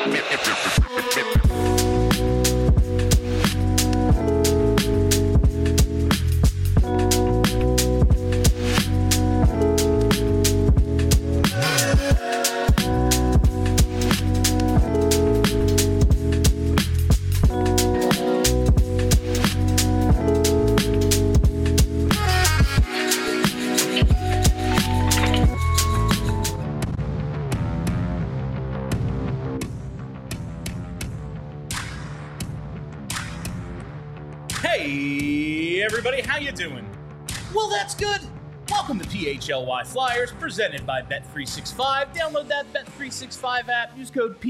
Hey, everybody, how you doing? Well, that's good. Welcome to PHLY Flyers, presented by Bet365. Download that Bet365 app. Use code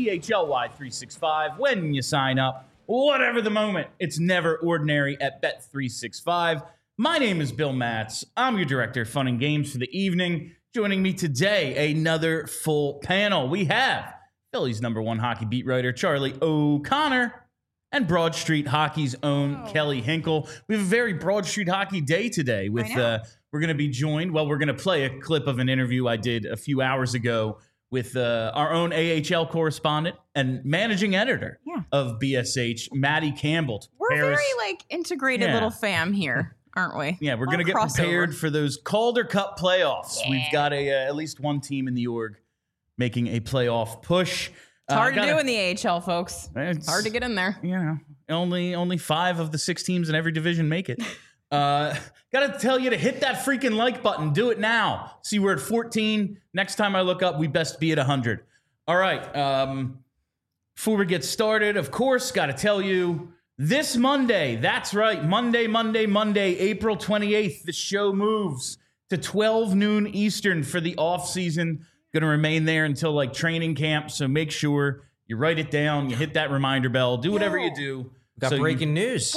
PHLY365 when you sign up. Whatever the moment, it's never ordinary at Bet365. My name is Bill Matz. I'm your director of fun and games for the evening. Joining me today, another full panel. We have Philly's #1 hockey beat writer, Charlie O'Connor, and Broad Street Hockey's own Kelly Hinkle. We have a very Broad Street Hockey day today. With we're going to be joined. Well, we're going to play a clip of an interview I did a few hours ago with our own AHL correspondent and managing editor of BSH, Maddie Campbell. We're a very integrated little fam here, aren't we? Yeah, we're going to get prepared for those Calder Cup playoffs. Yeah. We've got at least one team in the org making a playoff push. It's hard to do in the AHL, folks. It's hard to get in there. You know, only 5 of the 6 teams in every division make it. Got to tell you to hit that freaking like button. Do it now. See, we're at 14. Next time I look up, we best be at 100. All right. Before we get started, of course, got to tell you, this Monday, that's right, Monday, April 28th, the show moves to 12 noon Eastern for the off-season. Going to remain there until like training camp, so make sure you write it down, you hit that reminder bell, do whatever you do. Got breaking news.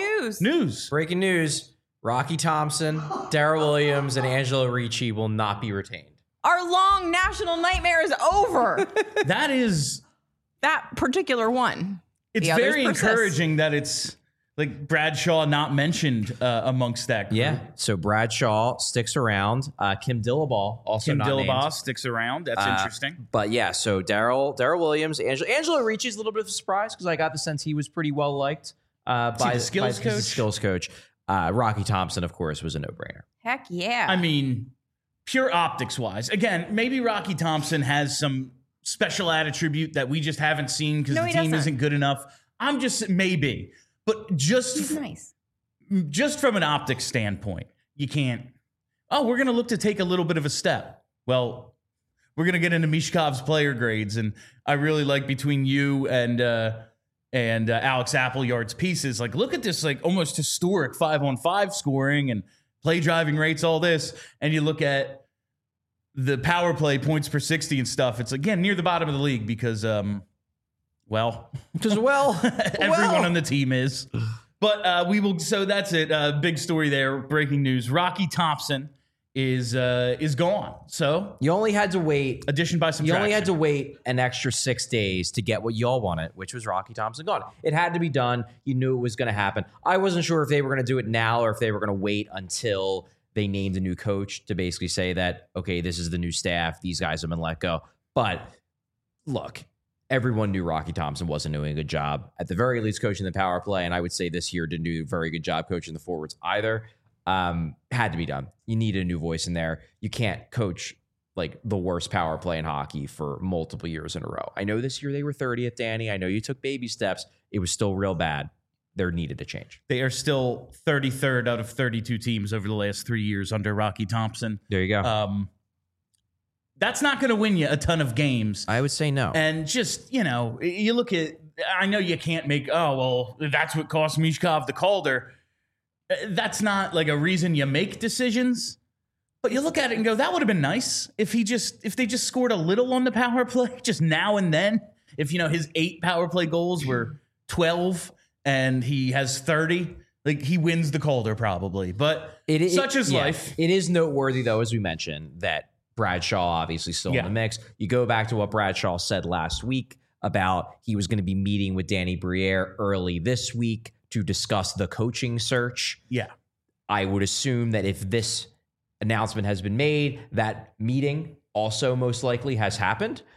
Breaking news. Rocky Thompson, Darrell Williams, and Angelo Ricci will not be retained. Our long national nightmare is over. That is... that particular one. It's very encouraging that it's like Bradshaw not mentioned amongst that group. Yeah, so Bradshaw sticks around. Kim Dillabaugh also not named. Kim Dillabaugh sticks around. That's interesting. But yeah, so Darrell Williams, Angelo Ricci is a little bit of a surprise because I got the sense he was pretty well liked by the skills coach. Rocky Thompson, of course, was a no-brainer. Heck yeah. I mean, pure optics-wise. Again, maybe Rocky Thompson has some special attribute that we just haven't seen because the team isn't good enough. I'm just, maybe. But just from an optics standpoint, you can't, we're going to look to take a little bit of a step. Well, we're going to get into Mishkov's player grades, and I really like between you and Alex Appleyard's pieces, like, look at this, like, almost historic 5-on-5 scoring and play driving rates, all this, and you look at the power play points per 60 and stuff. It's, again, near the bottom of the league because, everyone on the team is. But we will. So that's it. Big story there. Breaking news. Rocky Thompson is gone. So you only had to wait. Addition by subtraction. You only had to wait an extra 6 days to get what y'all wanted, which was Rocky Thompson gone. It had to be done. You knew it was going to happen. I wasn't sure if they were going to do it now or if they were going to wait until they named a new coach to basically say that, okay, this is the new staff. These guys have been let go. But look. Everyone knew Rocky Thompson wasn't doing a good job, at the very least coaching the power play, and I would say this year didn't do a very good job coaching the forwards either. Had to be done. You need a new voice in there. You can't coach like the worst power play in hockey for multiple years in a row. I know this year they were 30th, Danny. I know you took baby steps. It was still real bad. There needed to change. They are still 33rd out of 32 teams over the last 3 years under Rocky Thompson. There you go. That's not going to win you a ton of games. I would say no. And just, you look at, I know you can't make, that's what cost Mishkov the Calder. That's not like a reason you make decisions. But you look at it and go, that would have been nice if they just scored a little on the power play, just now and then. If, his 8 power play goals were 12 and he has 30, like he wins the Calder probably. But such is life. It is noteworthy, though, as we mentioned, that Bradshaw obviously still in the mix. You go back to what Bradshaw said last week about he was going to be meeting with Danny Briere early this week to discuss the coaching search. Yeah. I would assume that if this announcement has been made, that meeting also most likely has happened.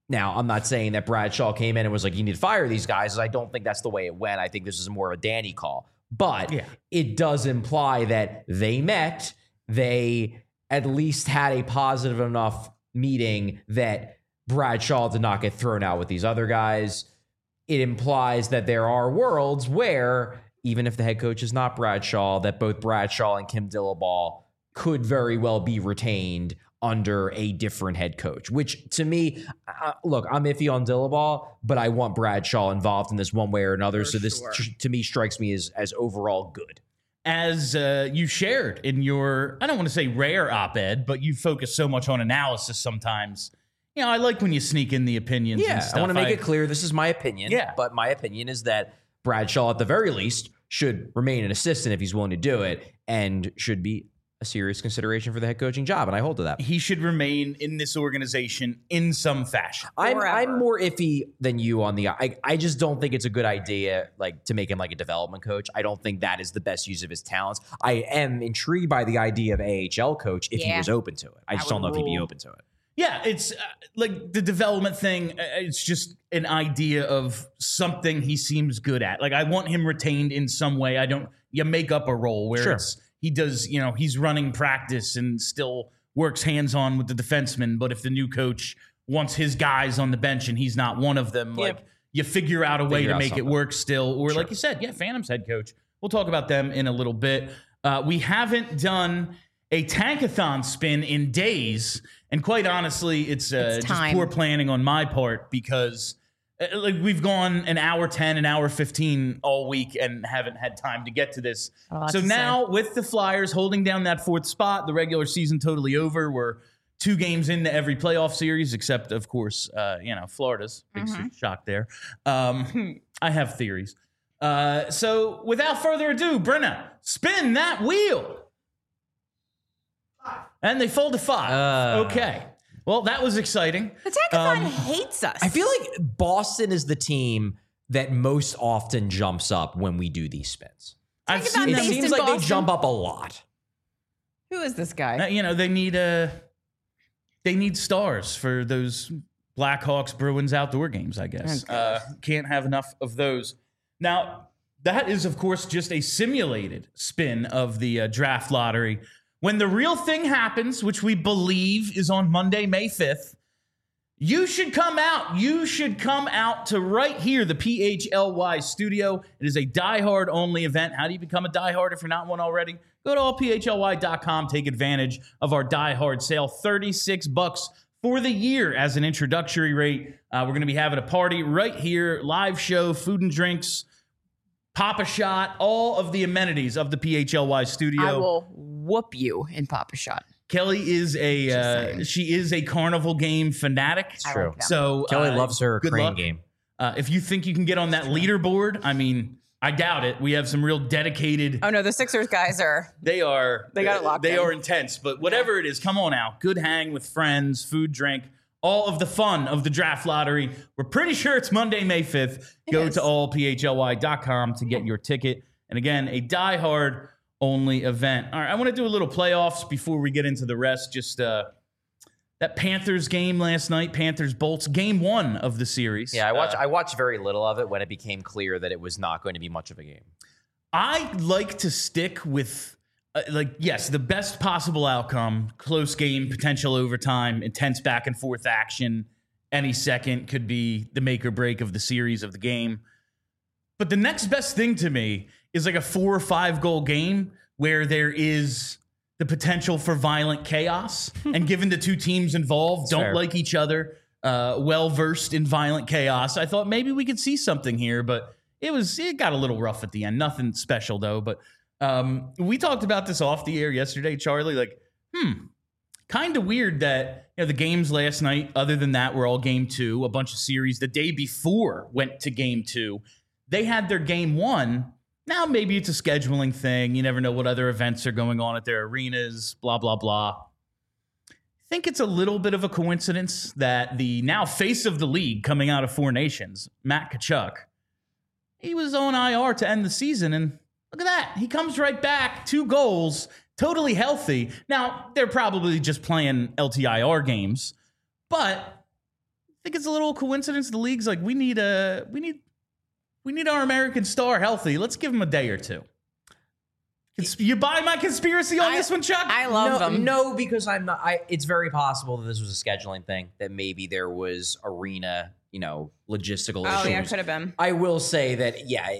Now, I'm not saying that Brad Shaw came in and was like, you need to fire these guys. I don't think that's the way it went. I think this is more of a Danny call. But it does imply that they met. They at least had a positive enough meeting that Brad Shaw did not get thrown out with these other guys. It implies that there are worlds where, even if the head coach is not Brad Shaw, that both Brad Shaw and Kim Dillabaugh could very well be retained under a different head coach, which to me, look, I'm iffy on Dillabaugh, but I want Brad Shaw involved in this one way or another. So this to me strikes me as overall good. As you shared in your, I don't want to say rare op-ed, but you focus so much on analysis sometimes. You know, I like when you sneak in the opinions and stuff. I want to make it clear this is my opinion. Yeah. But my opinion is that Brad Shaw, at the very least, should remain an assistant if he's willing to do it, and should be a serious consideration for the head coaching job, and I hold to that. He should remain in this organization in some fashion. I'm more iffy than you on the. I just don't think it's a good idea, like, to make him like a development coach. I don't think that is the best use of his talents. I am intrigued by the idea of AHL coach if he was open to it. I just don't know if he'd be open to it. Yeah, it's like the development thing. It's just an idea of something he seems good at. Like, I want him retained in some way. You make up a role where it's. He does, he's running practice and still works hands-on with the defensemen. But if the new coach wants his guys on the bench and he's not one of them, like, you figure out a way to make it work still. Or like you said, Phantom's head coach. We'll talk about them in a little bit. We haven't done a tankathon spin in days. And quite honestly, it's just poor planning on my part, because like, we've gone an hour 10, an hour 15 all week and haven't had time to get to this. So now with the Flyers holding down that fourth spot, the regular season totally over. We're 2 games into every playoff series, except, of course, Florida's. Big shock there. I have theories. So without further ado, Brenna, spin that wheel. And they fold to 5. Okay. Well, that was exciting. The Tankathon hates us. I feel like Boston is the team that most often jumps up when we do these spins. It seems like they jump up a lot. Who is this guy? They need stars for those Blackhawks Bruins outdoor games, I guess. Can't have enough of those. Now, that is, of course, just a simulated spin of the draft lottery. When the real thing happens, which we believe is on Monday, May 5th, you should come out. You should come out to right here, the PHLY studio. It is a diehard only event. How do you become a diehard if you're not one already? Go to allphly.com. Take advantage of our diehard sale. $36 for the year as an introductory rate. We're going to be having a party right here, live show, food and drinks, Pop a Shot, all of the amenities of the PHLY studio. I will whoop you in Pop a Shot. Kelly is a carnival game fanatic. It's true. So Kelly loves her crane luck. game. If you think you can get on that leaderboard, I mean, I doubt it. We have some real dedicated. Oh no, the Sixers guys are. They got it locked. They in. are intense. But whatever it is, come on out. Good hang with friends, food, drink. All of the fun of the draft lottery. We're pretty sure it's Monday, May 5th. Go to allphly.com to get your ticket. And again, a diehard only event. All right, I want to do a little playoffs before we get into the rest. Just that Panthers game last night, Panthers-Bolts, game 1 of the series. Yeah, I watched very little of it when it became clear that it was not going to be much of a game. I like to stick with... yes, the best possible outcome, close game, potential overtime, intense back and forth action. Any second could be the make or break of the series of the game. But the next best thing to me is like a 4 or 5 goal game where there is the potential for violent chaos. And given the 2 teams involved don't like each other, well-versed in violent chaos, I thought maybe we could see something here. But it got a little rough at the end. Nothing special, though. But we talked about this off the air yesterday, Charlie. Like, kind of weird that the games last night, other than that, were all game 2. A bunch of series the day before went to game 2. They had their game 1. Now maybe it's a scheduling thing. You never know what other events are going on at their arenas. Blah blah blah. I think it's a little bit of a coincidence that the now face of the league coming out of 4 Nations, Matt Tkachuk, he was on IR to end the season, and look at that. He comes right back, 2 goals, totally healthy. Now, they're probably just playing LTIR games, but think it's a little coincidence. The league's like, we need our American star healthy. Let's give him a day or two. You buy my conspiracy on this one, Chuck? I love them. No, because I'm not. It's very possible that this was a scheduling thing. That maybe there was arena, logistical issues. Oh yeah, could have been. I will say that,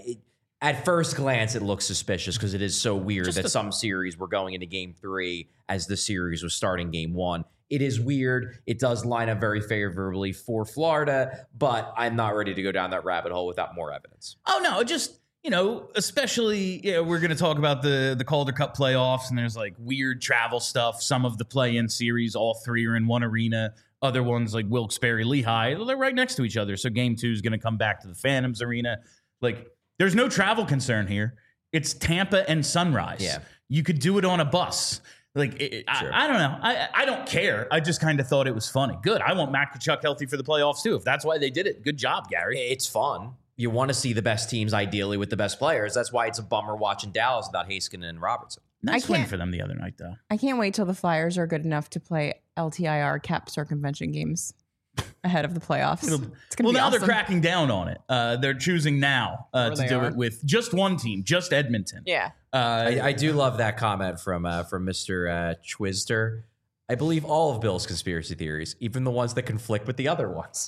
at first glance, it looks suspicious because it is so weird that some series were going into Game 3 as the series was starting Game 1. It is weird. It does line up very favorably for Florida, but I'm not ready to go down that rabbit hole without more evidence. Oh no, just. Especially, we're going to talk about the Calder Cup playoffs, and there's like weird travel stuff. Some of the play-in series, all three are in one arena. Other ones like Wilkes-Barre, Lehigh, they're right next to each other. So Game 2 is going to come back to the Phantoms Arena. Like, there's no travel concern here. It's Tampa and Sunrise. Yeah. You could do it on a bus. Like, Sure. I don't know. I don't care. I just kind of thought it was funny. Good. I want Mac Kachuk healthy for the playoffs, too. If that's why they did it, good job, Gary. It's fun. You want to see the best teams, ideally, with the best players. That's why it's a bummer watching Dallas without Heiskanen and Robertson. Nice win for them the other night, though. I can't wait till the Flyers are good enough to play LTIR cap circumvention games ahead of the playoffs. It's gonna be now awesome. they're cracking down on it. They're choosing now to do it with just one team, just Edmonton. Yeah. I do love that comment from Mr. Chwister. I believe all of Bill's conspiracy theories, even the ones that conflict with the other ones.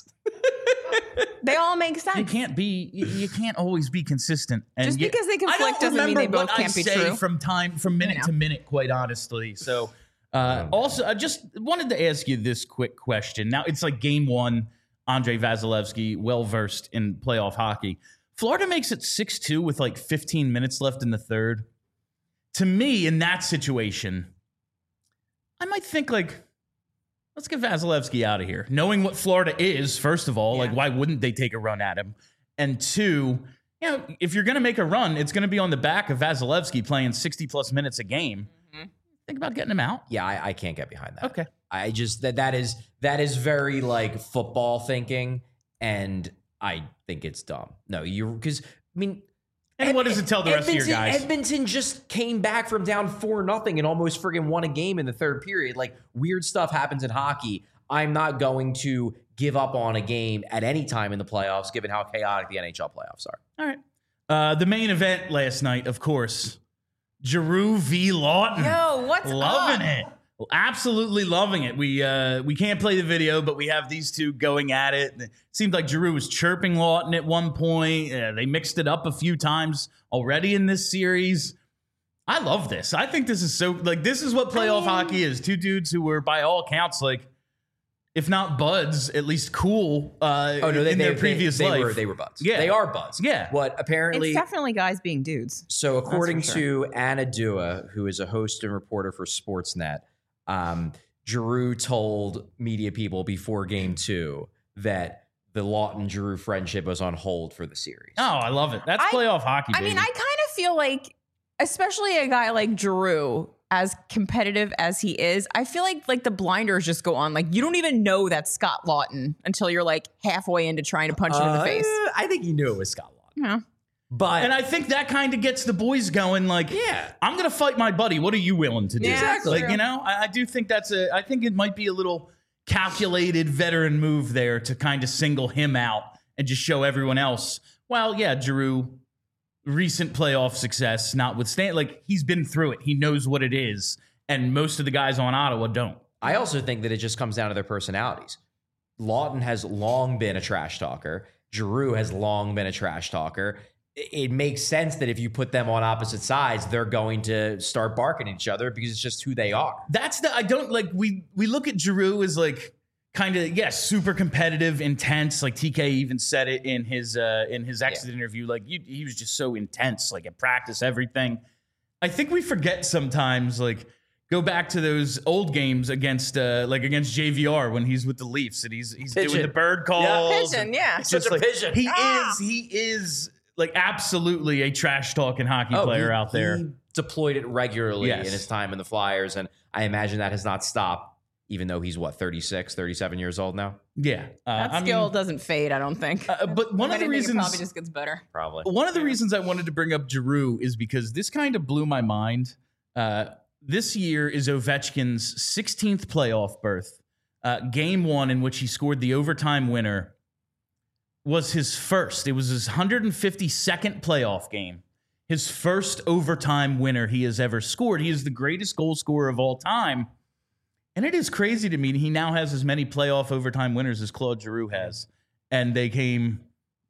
They all make sense. You can't always be consistent. And just because they conflict doesn't mean they both can't be true. From minute to minute, quite honestly. So, also, I just wanted to ask you this quick question. Now, it's like Game 1. Andrei Vasilevsky, well versed in playoff hockey. Florida makes it 6-2 with like 15 minutes left in the third. To me, in that situation, I might think like, let's get Vasilevsky out of here. Knowing what Florida is, first of all, like why wouldn't they take a run at him? And two, if you're going to make a run, it's going to be on the back of Vasilevsky playing 60-plus minutes a game. Mm-hmm. Think about getting him out. Yeah, I can't get behind that. Okay. I just that is very like football thinking, and I think it's dumb. No, because and what does it tell the rest of your guys? Edmonton just came back from down 4-0 and almost friggin' won a game in the third period. Like, weird stuff happens in hockey. I'm not going to give up on a game at any time in the playoffs, given how chaotic the NHL playoffs are. All right. The main event last night, of course, Giroux v. Lawton. Yo, what's loving up? it? Absolutely loving it. We can't play the video, but we have these two going at it. It seemed like Giroux was chirping Lawton at one point. They mixed it up a few times already in this series. I love this. I think this is so this is what playoff hockey is. Two dudes who were by all accounts if not buds, at least cool. In their previous life. They were buds. Yeah, they are buds. Yeah. What apparently it's definitely guys being dudes. So according to Anna Dua, who is a host and reporter for Sportsnet, Giroux told media people before Game 2 that the Lawton-Giroux friendship was on hold for the series. Oh, I love it. That's playoff hockey, baby. I mean, I kind of feel like, especially a guy like Giroux, as competitive as he is, I feel like the blinders just go on. Like, you don't even know that's Scott Lawton until you're like halfway into trying to punch him in the face. I think he knew it was Scott Lawton. Yeah. And I think that kind of gets the boys going. Like, I'm going to fight my buddy. What are you willing to do? Yeah, exactly. Like, I do think I think it might be a little calculated veteran move there to kind of single him out and just show everyone else. Well, yeah, Giroux, recent playoff success notwithstanding, he's been through it. He knows what it is. And most of the guys on Ottawa don't. I also think that it just comes down to their personalities. Lawton has long been a trash talker. Giroux has long been a trash talker. It makes sense that if you put them on opposite sides, they're going to start barking at each other because it's just who they are. We look at Giroux as super competitive, intense. Like TK even said it in his exit interview. He was just so intense, at practice, everything. I think we forget sometimes, go back to those old games against JVR when he's with the Leafs and he's doing the bird calls. Pigeon, yeah. It's just pigeon. He is absolutely a trash talking hockey player out there. He deployed it regularly in his time in the Flyers, and I imagine that has not stopped, even though he's 36, 37 years old now. Yeah. That skill doesn't fade, I don't think. But one of the reasons it probably just gets better. Probably. One of the reasons I wanted to bring up Giroux is because this kind of blew my mind. This year is Ovechkin's 16th playoff berth. Game 1, in which he scored the overtime winner, was his first. It was his 152nd playoff game. His first overtime winner he has ever scored. He is the greatest goal scorer of all time. And it is crazy to me he now has as many playoff overtime winners as Claude Giroux has. And they came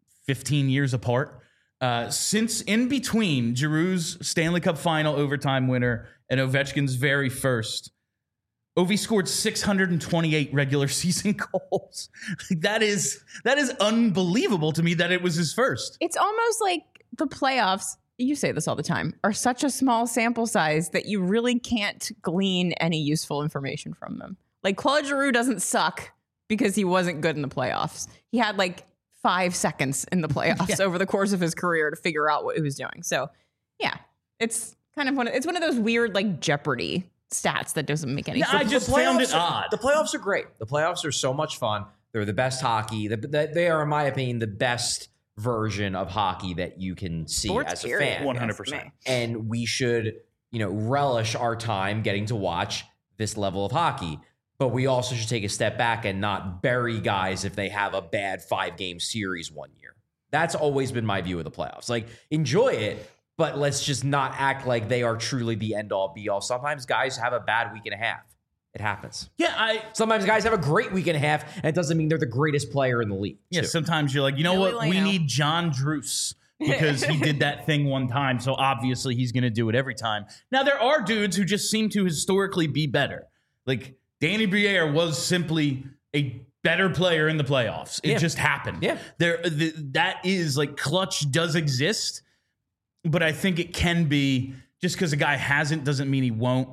15 years apart. Since in between Giroux's Stanley Cup final overtime winner and Ovechkin's very first, Ovi scored 628 regular season goals. That is unbelievable to me that it was his first. It's almost like the playoffs, you say this all the time, are such a small sample size that you really can't glean any useful information from them. Like Claude Giroux doesn't suck because he wasn't good in the playoffs. He had like 5 seconds in the playoffs over the course of his career to figure out what he was doing. So yeah, it's kind of one of those weird like Jeopardy stats that doesn't make any sense. I just found it odd. The playoffs are great. The playoffs are so much fun. They're the best hockey. They are, in my opinion, the best version of hockey that you can see as a fan. 100%. And we should, relish our time getting to watch this level of hockey. But we also should take a step back and not bury guys if they have a bad 5-game series one year. That's always been my view of the playoffs. Like, enjoy it, but let's just not act like they are truly the end-all, be-all. Sometimes guys have a bad week and a half. It happens. Yeah, Sometimes guys have a great week and a half, and it doesn't mean they're the greatest player in the league. Yeah, too. sometimes you're like, we need John Druce because he did that thing one time, so obviously he's going to do it every time. Now, there are dudes who just seem to historically be better. Like, Danny Briere was simply a better player in the playoffs. It just happened. Yeah. That is, like, clutch does exist, but I think it can be, just because a guy hasn't doesn't mean he won't.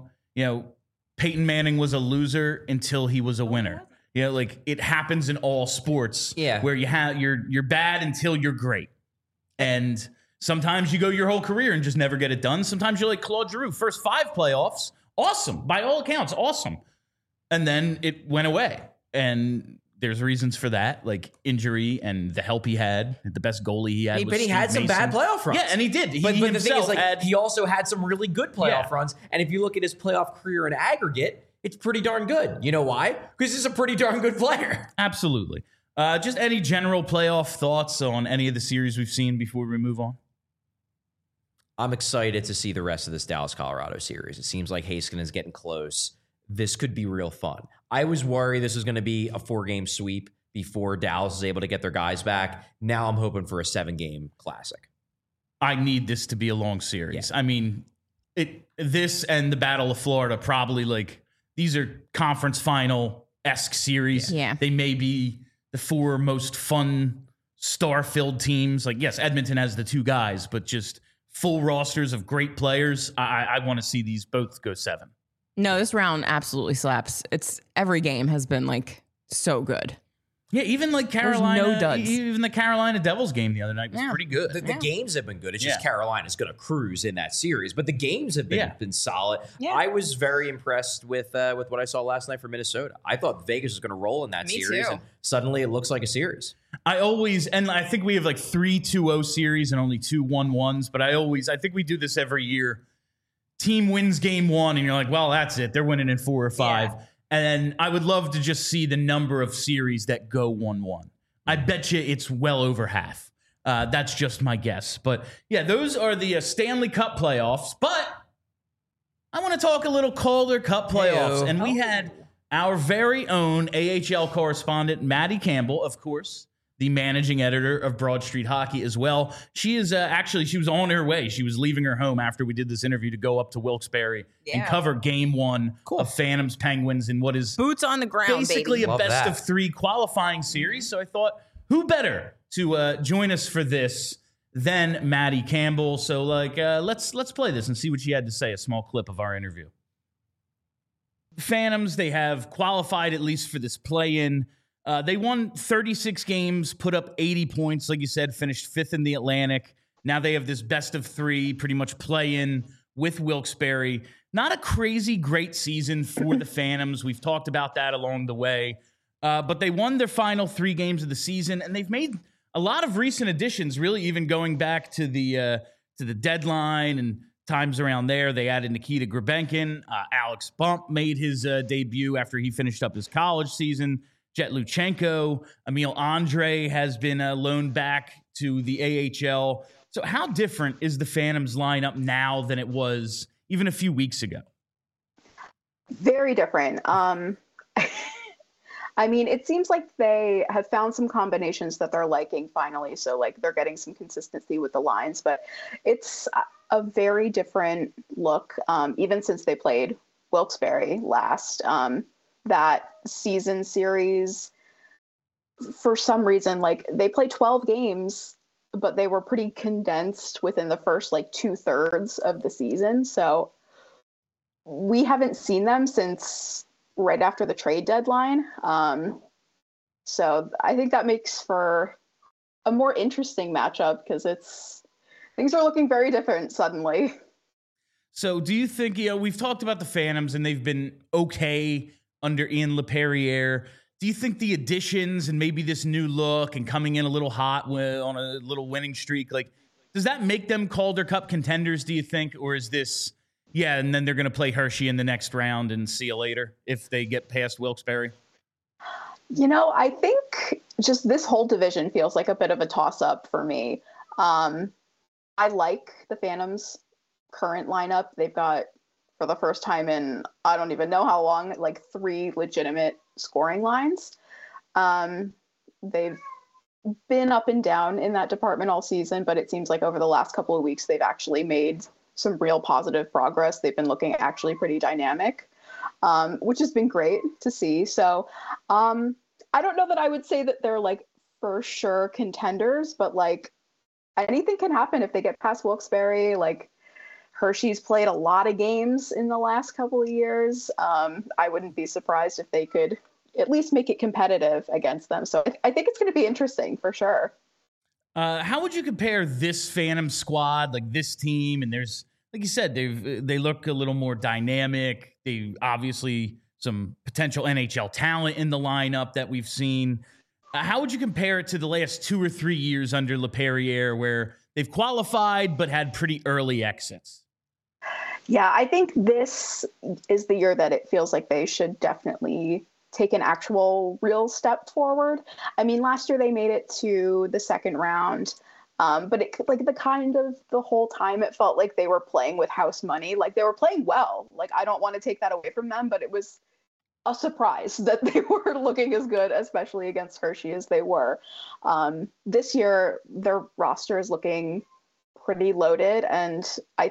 Peyton Manning was a loser until he was a winner. Like, it happens in all sports. Yeah. Where you're bad until you're great. And sometimes you go your whole career and just never get it done. Sometimes you're like Claude Giroux, first 5 playoffs, awesome. By all accounts, awesome. And then it went away. And there's reasons for that, like injury and the help he had. The best goalie he had was But he had Steve some Mason. bad playoff runs. Yeah, and he did. But the thing is, like, he also had some really good playoff runs. And if you look at his playoff career in aggregate, it's pretty darn good. You know why? Because he's a pretty darn good player. Absolutely. Just any general playoff thoughts on any of the series we've seen before we move on? I'm excited to see the rest of this Dallas-Colorado series. It seems like Heiskanen is getting close. This could be real fun. I was worried this was going to be a 4-game sweep before Dallas is able to get their guys back. Now I'm hoping for a 7-game classic. I need this to be a long series. Yeah. I mean, this and the Battle of Florida probably, like, these are conference final-esque series. Yeah. They may be the 4 most fun, star-filled teams. Like, yes, Edmonton has the 2 guys, but just full rosters of great players. I want to see these both go 7. No, this round absolutely slaps. Every game has been like so good. Yeah, even like Carolina, no duds. Even the Carolina Devils game the other night was pretty good. The games have been good. It's just Carolina's going to cruise in that series, but the games have been solid. Yeah. I was very impressed with what I saw last night for Minnesota. I thought Vegas was going to roll in that series, and suddenly it looks like a series. I think we have like 3 2-0 series and only 2 1-1s, but I think we do this every year. Team wins game 1, and you're like, well, that's it. They're winning in 4 or 5. Yeah. And I would love to just see the number of series that go 1-1. I bet you it's well over half. That's just my guess. But yeah, those are the Stanley Cup playoffs. But I want to talk a little Calder Cup playoffs. Hey-o. And we had our very own AHL correspondent, Maddie Campbell, of course, the managing editor of Broad Street Hockey as well. She is she was on her way. She was leaving her home after we did this interview to go up to Wilkes-Barre and cover game 1 of Phantoms Penguins in what is boots on the ground, basically baby. a best of 3 qualifying series. So I thought, who better to join us for this than Maddie Campbell? So let's play this and see what she had to say. A small clip of our interview. Phantoms, they have qualified at least for this play-in. They won 36 games, put up 80 points, like you said, finished 5th in the Atlantic. Now they have this best of 3, pretty much play-in with Wilkes-Barre. Not a crazy great season for the Phantoms. We've talked about that along the way. But they won their final 3 games of the season, and they've made a lot of recent additions, really even going back to the deadline and times around there. They added Nikita Grabenkin. Alex Bump made his debut after he finished up his college season. Jet Luchenko. Emil Andre has been loaned back to the AHL. So how different is the Phantoms lineup now than it was even a few weeks ago? Very different. I mean, it seems like they have found some combinations that they're liking finally. So like they're getting some consistency with the lines, but it's a very different look, even since they played Wilkes-Barre last. That season series, for some reason, like they played 12 games, but they were pretty condensed within the first like 2/3 of the season. So we haven't seen them since right after the trade deadline. So I think that makes for a more interesting matchup because things are looking very different suddenly. So do you think, we've talked about the Phantoms and they've been okay under Ian LePerriere. Do you think the additions and maybe this new look and coming in a little hot on a little winning streak, like, does that make them Calder Cup contenders, do you think? Or is this, and then they're going to play Hershey in the next round and see you later if they get past Wilkes-Barre? I think just this whole division feels like a bit of a toss-up for me. I like the Phantoms' current lineup. They've got, for the first time in I don't even know how long, like 3 legitimate scoring lines. They've been up and down in that department all season, but it seems like over the last couple of weeks, they've actually made some real positive progress. They've been looking actually pretty dynamic, which has been great to see. So I don't know that I would say that they're like for sure contenders, but like anything can happen if they get past Wilkes-Barre. Like Hershey's played a lot of games in the last couple of years. I wouldn't be surprised if they could at least make it competitive against them. So I think it's going to be interesting for sure. How would you compare this Phantom squad, like this team? And there's, like you said, they look a little more dynamic. They obviously some potential NHL talent in the lineup that we've seen. How would you compare it to the last 2 or 3 years under LePerriere, where they've qualified but had pretty early exits? Yeah, I think this is the year that it feels like they should definitely take an actual real step forward. I mean, last year they made it to the second round, but the whole time it felt like they were playing with house money. Like they were playing well. Like I don't want to take that away from them, but it was a surprise that they were looking as good, especially against Hershey, as they were. This year, their roster is looking pretty loaded, and I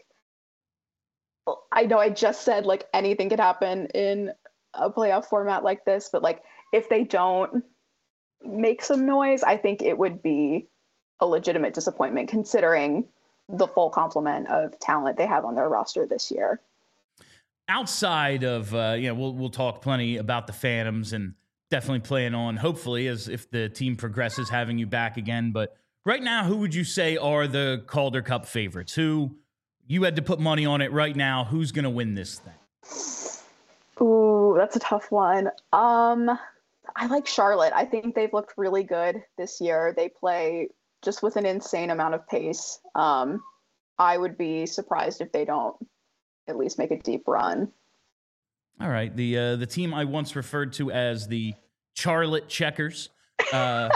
know I just said like anything could happen in a playoff format like this, but like if they don't make some noise, I think it would be a legitimate disappointment considering the full complement of talent they have on their roster this year. Outside of, we'll talk plenty about the Phantoms and definitely plan on, hopefully, as if the team progresses, having you back again. But right now, who would you say are the Calder Cup favorites? Who you had to put money on it right now? Who's going to win this thing? Ooh, that's a tough one. I like Charlotte. I think they've looked really good this year. They play just with an insane amount of pace. I would be surprised if they don't at least make a deep run. All right. The team I once referred to as the Charlotte Checkers. The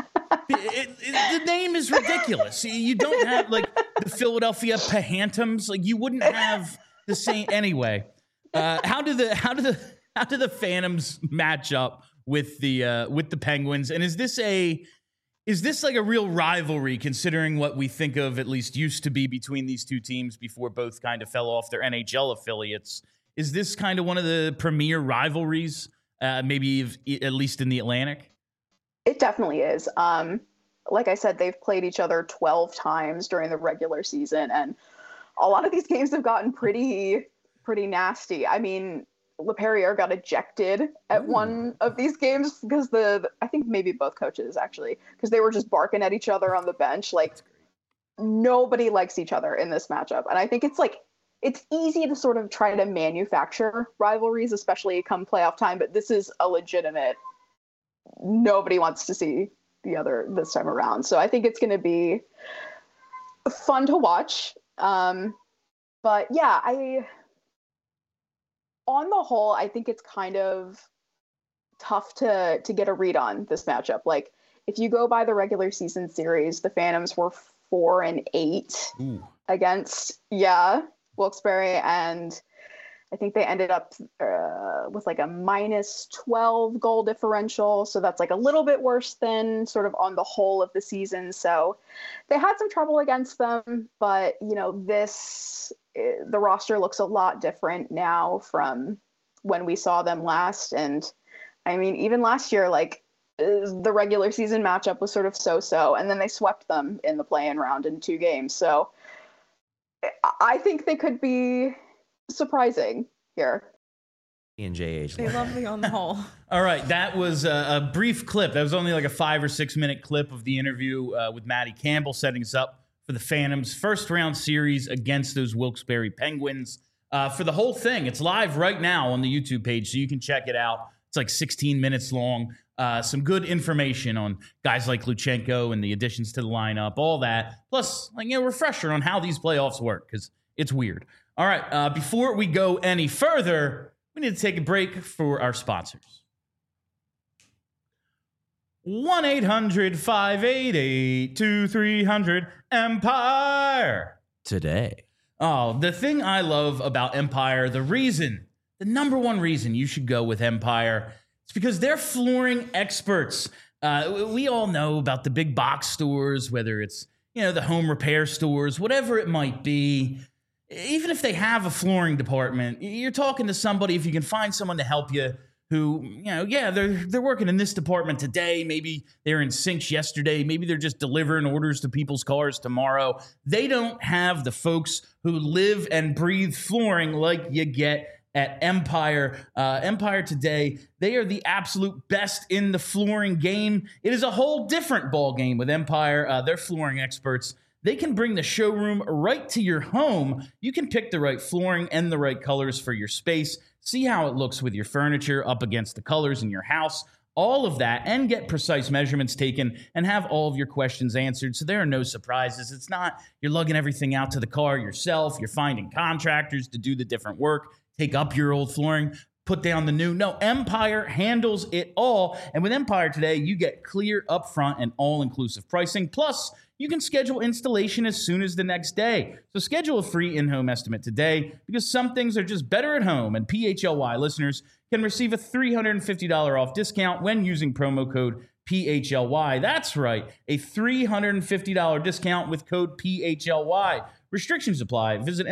name is ridiculous. You don't have like the Philadelphia Pahantums. Like you wouldn't have the same anyway. How do the Phantoms match up with the Penguins? And is this like a real rivalry, considering what we think of at least used to be between these two teams before both kind of fell off their NHL affiliates? Is this kind of one of the premier rivalries, maybe at least in the Atlantic? It definitely is. Like I said, they've played each other 12 times during the regular season, and a lot of these games have gotten pretty nasty. I mean, LePerriere got ejected at one of these games because I think maybe both coaches actually, because they were just barking at each other on the bench. Like nobody likes each other in this matchup. And I think it's easy to sort of try to manufacture rivalries, especially come playoff time, but this is a legitimate, nobody wants to see the other this time around. So I think it's going to be fun to watch. But yeah, on the whole, I think it's kind of tough to get a read on this matchup. Like, if you go by the regular season series, the Phantoms were 4-8 against Wilkes-Barre, and I think they ended up with like a -12 goal differential. So that's like a little bit worse than sort of on the whole of the season. So they had some trouble against them, but the roster looks a lot different now from when we saw them last. And I mean, even last year, like the regular season matchup was sort of so-so, and then they swept them in the play-in round in 2 games. So I think they could be surprising here. And JH. They love the on the whole. All right, that was a brief clip. That was only like a 5 or 6 minute clip of the interview with Matty Campbell, setting us up for the Phantoms' first round series against those Wilkes-Barre Penguins. For the whole thing, it's live right now on the YouTube page, so you can check it out. It's like 16 minutes long. Some good information on guys like Luchenko and the additions to the lineup, all that. Plus, like, a refresher on how these playoffs work, because it's weird. All right, before we go any further, we need to take a break for our sponsors. 1-800-588-2300 Empire. Oh, the thing I love about Empire, the number one reason you should go with Empire, it's because they're flooring experts. We all know about the big box stores, whether it's, the home repair stores, whatever it might be. Even if they have a flooring department, you're talking to somebody, if you can find someone to help you who, they're working in this department today. Maybe they're in sinks yesterday. Maybe they're just delivering orders to people's cars tomorrow. They don't have the folks who live and breathe flooring like you get at Empire. Empire today, they are the absolute best in the flooring game. It is a whole different ball game with Empire. They're flooring experts. They can bring the showroom right to your home. You can pick the right flooring and the right colors for your space. See how it looks with your furniture up against the colors in your house. All of that, and get precise measurements taken and have all of your questions answered, so there are no surprises. It's not you're lugging everything out to the car yourself. You're finding contractors to do the different work, take up your old flooring, put down the new. No, Empire handles it all. And with Empire today, you get clear, upfront, and all-inclusive pricing. Plus, you can schedule installation as soon as the next day. So schedule a free in-home estimate today, because some things are just better at home. And PHLY listeners can receive a $350 off discount when using promo code PHLY. That's right, a $350 discount with code PHLY. Restrictions apply. Visit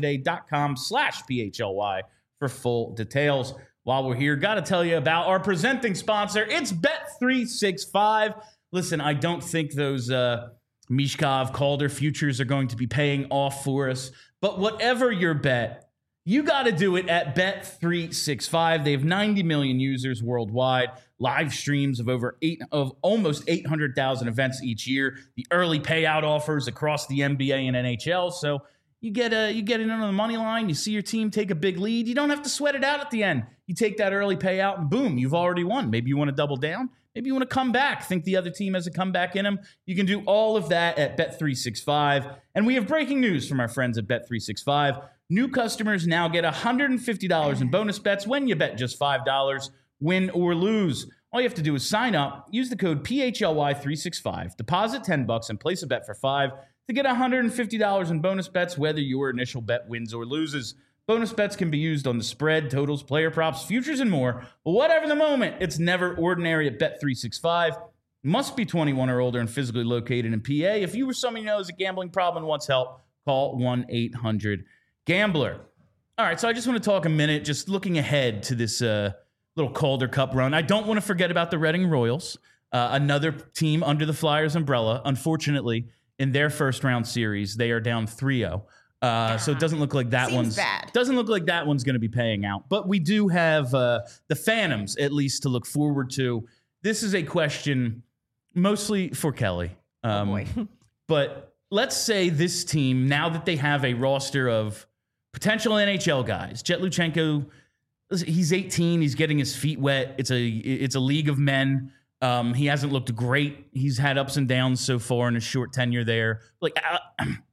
empiretoday.com/PHLY for full details. While we're here, got to tell you about our presenting sponsor. It's Bet365. Listen, I don't think those Mishkov Calder futures are going to be paying off for us, but whatever your bet, you got to do it at Bet365. They have 90 million users worldwide, live streams of almost 800,000 events each year, the early payout offers across the NBA and NHL. So you get in on the money line, you see your team take a big lead, you don't have to sweat it out at the end. You take that early payout and boom, you've already won. Maybe you want to double down. Maybe you want to come back, think the other team has a comeback in them. You can do all of that at Bet365. And we have breaking news from our friends at Bet365. New customers now get $150 in bonus bets when you bet just $5, win or lose. All you have to do is sign up, use the code PHLY365, deposit $10, and place a bet for $5 to get $150 in bonus bets, whether your initial bet wins or loses. Bonus bets can be used on the spread, totals, player props, futures, and more. Whatever the moment, it's never ordinary at Bet365. Must be 21 or older and physically located in PA. If you or someone you know has a gambling problem and wants help, call 1-800-GAMBLER. All right, so I just want to talk a minute, just looking ahead to this little Calder Cup run. I don't want to forget about the Reading Royals, another team under the Flyers umbrella. Unfortunately, in their first round series, they are down 3-0. So it doesn't look like that one's bad. Doesn't look like that one's going to be paying out. But we do have the Phantoms at least to look forward to. This is a question mostly for Kelly. Oh boy. But let's say this team, now that they have a roster of potential NHL guys, Jet Luchenko, he's 18, he's getting his feet wet. It's a league of men. He hasn't looked great. He's had ups and downs so far in his short tenure there. Like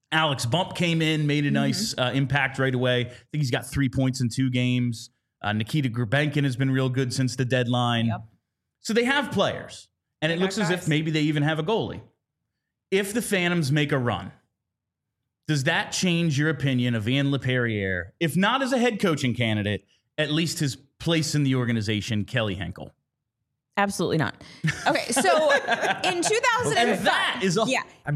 Alex Bump came in, made a nice impact right away. I think he's got 3 points in 2 games. Nikita Grubenkin has been real good since the deadline. Yep. So they have players, and it looks as if maybe they even have a goalie. If the Phantoms make a run, does that change your opinion of Ian LePerriere? If not as a head coaching candidate, at least his place in the organization, Kelly Henkel. Absolutely not. Okay, so in 2005, And that is all. so in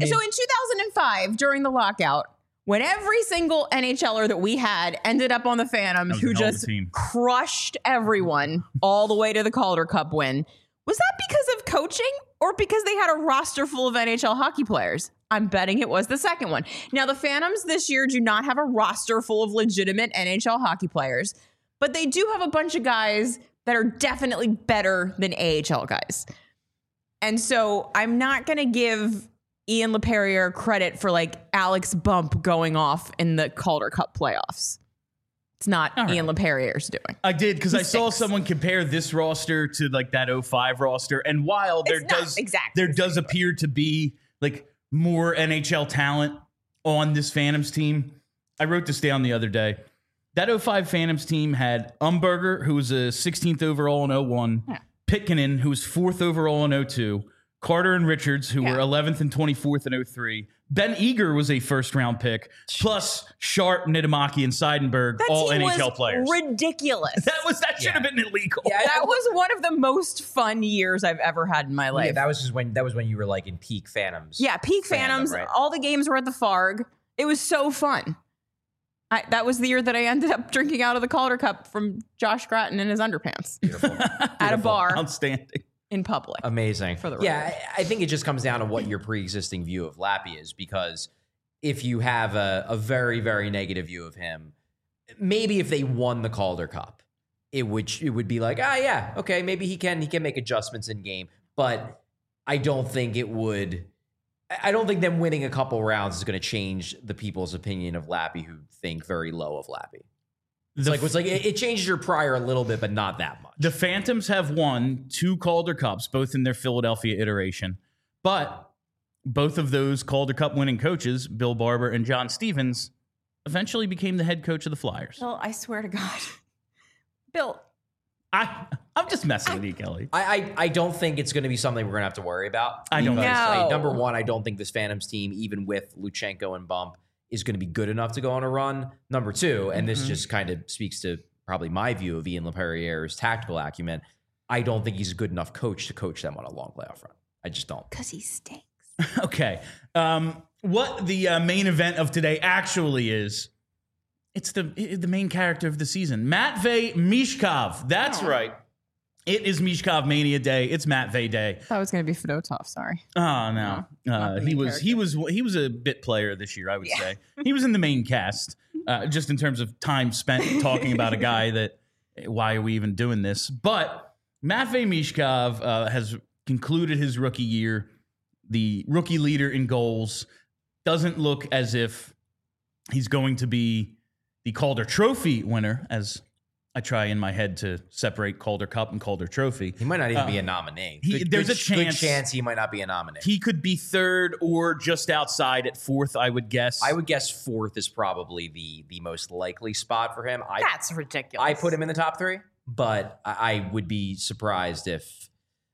2005 during the lockout, when every single NHLer that we had ended up on the Phantoms, who just crushed everyone all the way to the Calder Cup win, was that because of coaching or because they had a roster full of NHL hockey players? I'm betting it was the second one. Now, the Phantoms this year do not have a roster full of legitimate NHL hockey players, but they do have a bunch of guys that are definitely better than AHL guys. And so I'm not going to give Ian LePerriere credit for like Alex Bump going off in the Calder Cup playoffs. It's not Ian LePerriere's doing. I did because I saw someone compare this roster to like that 05 roster. And while there does appear to be like more NHL talent on this Phantoms team, I wrote this down the other day. That 05 Phantoms team had Umberger, who was a 16th overall in 01, Pitkanen, who was 4th overall in 02, Carter and Richards, who were 11th and 24th in 03. Ben Eager was a first-round pick, plus Sharp, Nidomaki, and Seidenberg, all NHL players. Ridiculous. That should have been illegal. Yeah, that was one of the most fun years I've ever had in my life. Yeah, that was when you were like in peak Phantoms. Yeah, peak Phantoms. Right? All the games were at the Farg. It was so fun. That was the year that I ended up drinking out of the Calder Cup from Josh Gratton in his underpants. Beautiful. At a bar. Outstanding. In public. Amazing. For the I think it just comes down to what your pre-existing view of Lappy is, because if you have a very, very negative view of him, maybe if they won the Calder Cup, it would be like, okay, maybe he can make adjustments in game, but I don't think it would. I don't think them winning a couple rounds is going to change the people's opinion of Lappy who think very low of Lappy. It changes your prior a little bit, but not that much. The Phantoms have won 2 Calder Cups, both in their Philadelphia iteration. But both of those Calder Cup winning coaches, Bill Barber and John Stevens, eventually became the head coach of the Flyers. Bill, I swear to God. Bill. I'm just messing with you, Kelly. I don't think it's going to be something we're going to have to worry about. I don't know. Number one, I don't think this Phantoms team, even with Luchenko and Bump, is going to be good enough to go on a run. Number two, and this just kind of speaks to probably my view of Ian LePerriere's tactical acumen, I don't think he's a good enough coach to coach them on a long playoff run. I just don't. Because he stinks. Okay. What the main event of today actually is, it's the main character of the season, Matvei Michkov. That's right. It is Michkov Mania Day. It's Matvei Day. I thought it was going to be Fedotov. Sorry. Oh no, he was a bit player this year. I would say he was in the main cast. Just in terms of time spent talking about a guy that, why are we even doing this? But Matvei Michkov has concluded his rookie year, the rookie leader in goals. Doesn't look as if he's going to be the Calder Trophy winner, as I try in my head to separate Calder Cup and Calder Trophy. He might not even be a nominee. There's a good chance he might not be a nominee. He could be third or just outside at fourth, I would guess. I would guess fourth is probably the most likely spot for him. That's ridiculous. I put him in the top 3, but I would be surprised if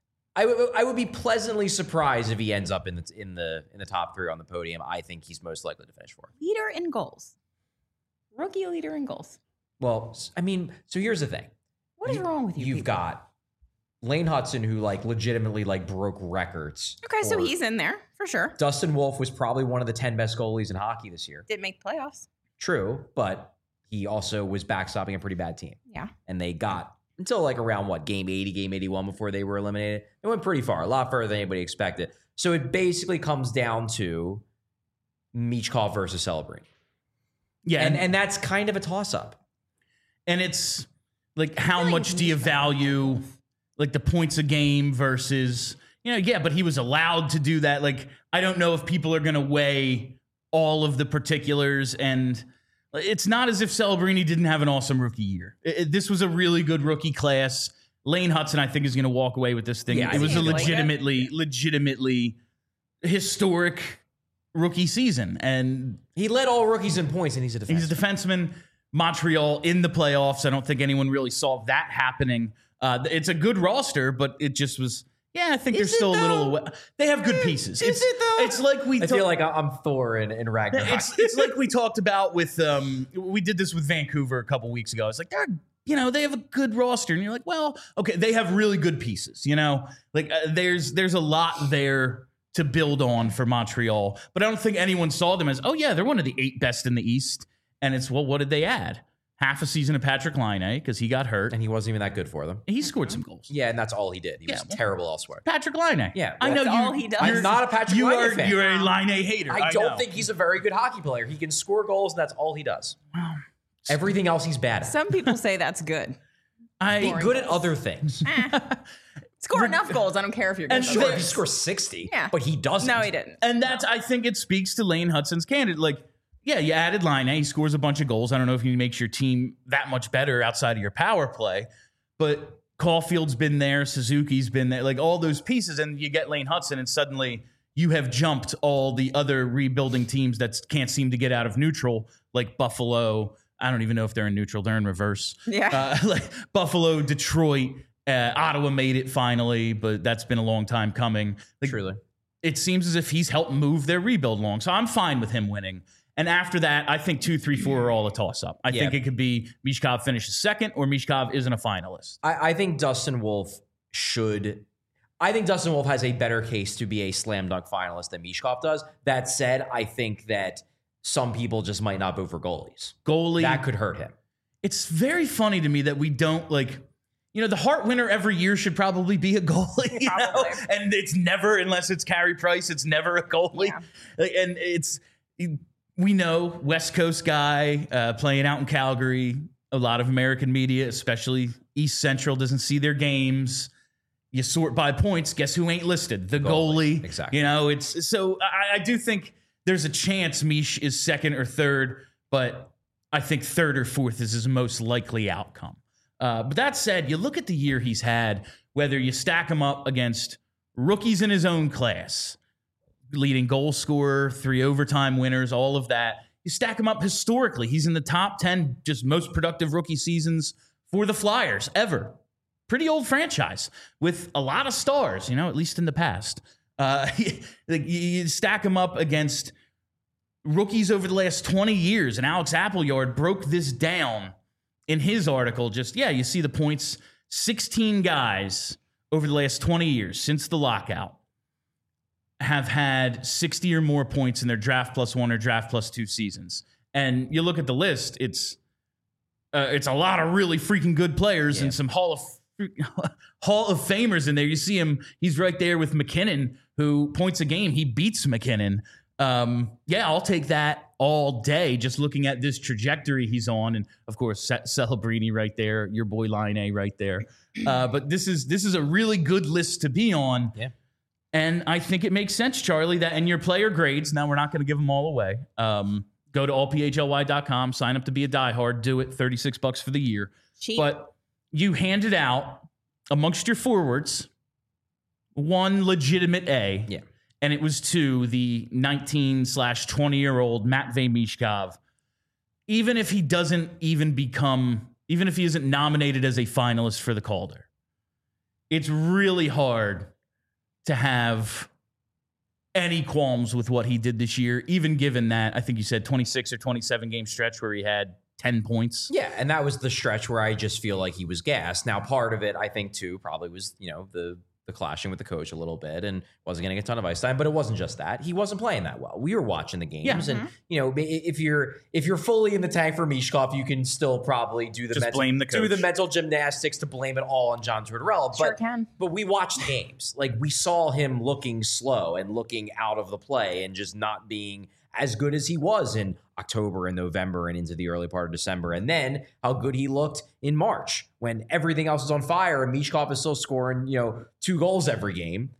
I would be pleasantly surprised if he ends up in the top 3 on the podium. I think he's most likely to finish fourth. Leader in goals. Rookie leader in goals. Well, I mean, so here's the thing. What is wrong with you? You've got Lane Hudson, who legitimately broke records. Okay, so he's in there for sure. Dustin Wolf was probably one of the 10 best goalies in hockey this year. Didn't make playoffs. True, but he also was backstopping a pretty bad team. Yeah. And they got until around game 80, game 81 before they were eliminated. They went pretty far, a lot further than anybody expected. So it basically comes down to Michkov versus Celebrini. Yeah, and that's kind of a toss-up. And it's how much do you value the points a game versus, but he was allowed to do that. I don't know if people are going to weigh all of the particulars, and it's not as if Celebrini didn't have an awesome rookie year. This was a really good rookie class. Lane Hudson, I think, is going to walk away with this thing. Yeah, it was a legitimately historic rookie season. And he led all rookies in points, and he's a defenseman. He's a defenseman. Montreal in the playoffs. I don't think anyone really saw that happening. It's a good roster, but it just was. Yeah, I think they're still a little away. They have good pieces. Is it though? It's like I feel like I'm Thor in Ragnarok. It's like we talked about with we did this with Vancouver a couple weeks ago. It's like they have a good roster, and you're like, well, okay, they have really good pieces. Like there's a lot there to build on for Montreal, but I don't think anyone saw them as, oh yeah, they're one of the 8 best in the East. And it's, well, what did they add? Half a season of Patrick Laine because he got hurt. And he wasn't even that good for them. He scored some goals. Yeah, and that's all he did. He was terrible elsewhere. Patrick Laine. Yeah, I know that's all he does. I'm not a Patrick Laine fan. You're a Laine hater. I don't think he's a very good hockey player. He can score goals, and that's all he does. Wow. Everything else he's bad at. Some people say that's good. He's good at other things. Score enough goals. I don't care if you're good. And Sure, he scores 60, but he doesn't. No, he didn't. And that's, I think it speaks to Lane Hutson's candidate. Like, yeah, you added Laine. He scores a bunch of goals. I don't know if he makes your team that much better outside of your power play, but Caulfield's been there. Suzuki's been there. Like all those pieces, and you get Lane Hutson, and suddenly you have jumped all the other rebuilding teams that can't seem to get out of neutral, like Buffalo. I don't even know if they're in neutral. They're in reverse. Yeah. Like Buffalo, Detroit, Ottawa made it finally, but that's been a long time coming. Like, Truly. It seems as if he's helped move their rebuild along. So I'm fine with him winning. And after that, I think 2, 3, 4 are all a toss-up. I think it could be Mishkov finishes second or Mishkov isn't a finalist. I think Dustin Wolf should... I think Dustin Wolf has a better case to be a slam dunk finalist than Mishkov does. That said, I think that some people just might not vote for goalies. That could hurt him. It's very funny to me that we don't, like... the Hart winner every year should probably be a goalie, and it's never, unless it's Carey Price, it's never a goalie. Yeah. And we know West Coast guy playing out in Calgary. A lot of American media, especially East Central, doesn't see their games. You sort by points. Guess who ain't listed? The goalie. Exactly. It's so I do think there's a chance Mish is second or third, but I think third or fourth is his most likely outcome. But that said, you look at the year he's had, whether you stack him up against rookies in his own class, leading goal scorer, 3 overtime winners, all of that. You stack him up historically. He's in the top 10 just most productive rookie seasons for the Flyers ever. Pretty old franchise with a lot of stars, at least in the past. You stack him up against rookies over the last 20 years, and Alex Appleyard broke this down in his article. You see the points. 16 guys over the last 20 years since the lockout have had 60 or more points in their draft plus 1 or draft plus 2 seasons. And you look at the list, it's a lot of really freaking good players and some Hall of Famers in there. You see him, he's right there with McKinnon, who points a game. He beats McKinnon. I'll take that all day, just looking at this trajectory he's on. And of course, Celebrini right there, your boy Laine right there. But this is a really good list to be on. Yeah. And I think it makes sense, Charlie, that in your player grades, now we're not going to give them all away. Go to allphly.com, sign up to be a diehard, do it, $36 for the year. Cheap. But you handed out amongst your forwards one legitimate A. Yeah. And it was to the 19/20-year-old Matvei Mishkov. Even if he isn't nominated as a finalist for the Calder, it's really hard to have any qualms with what he did this year, even given that, I think you said 26 or 27 game stretch where he had 10 points. Yeah, and that was the stretch where I just feel like he was gassed. Now, part of it, I think, too, probably was, the clashing with the coach a little bit and wasn't getting a ton of ice time, but it wasn't just that. He wasn't playing that well. We were watching the games, and if you're fully in the tank for Mishkov, you can still probably do the mental gymnastics to blame it all on John Tortorella. Sure can. But we watched games. Like, we saw him looking slow and looking out of the play and just not being as good as he was in October and November and into the early part of December. And then how good he looked in March when everything else is on fire and Mishkov is still scoring, 2 goals every game.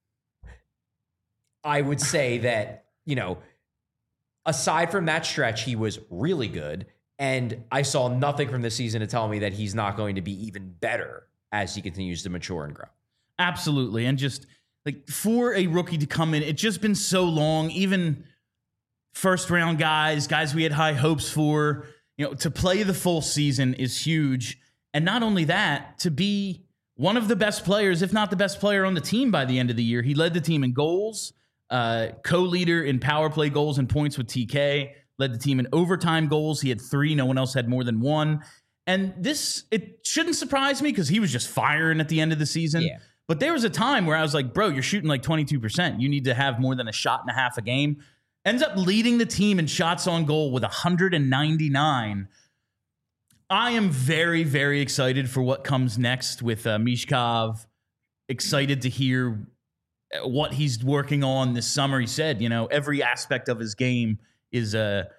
I would say that, aside from that stretch, he was really good. And I saw nothing from this season to tell me that he's not going to be even better as he continues to mature and grow. Absolutely. And just like for a rookie to come in, it's just been so long, even first round guys we had high hopes for. To play the full season is huge. And not only that, to be one of the best players, if not the best player on the team by the end of the year. He led the team in goals, co-leader in power play goals and points with TK, led the team in overtime goals. He had 3. No one else had more than 1. And it shouldn't surprise me because he was just firing at the end of the season. Yeah. But there was a time where I was like, bro, you're shooting like 22%. You need to have more than a shot and a half a game. Ends up leading the team in shots on goal with 199. I am very, very excited for what comes next with Mishkov. Excited to hear what he's working on this summer. He said, every aspect of his game is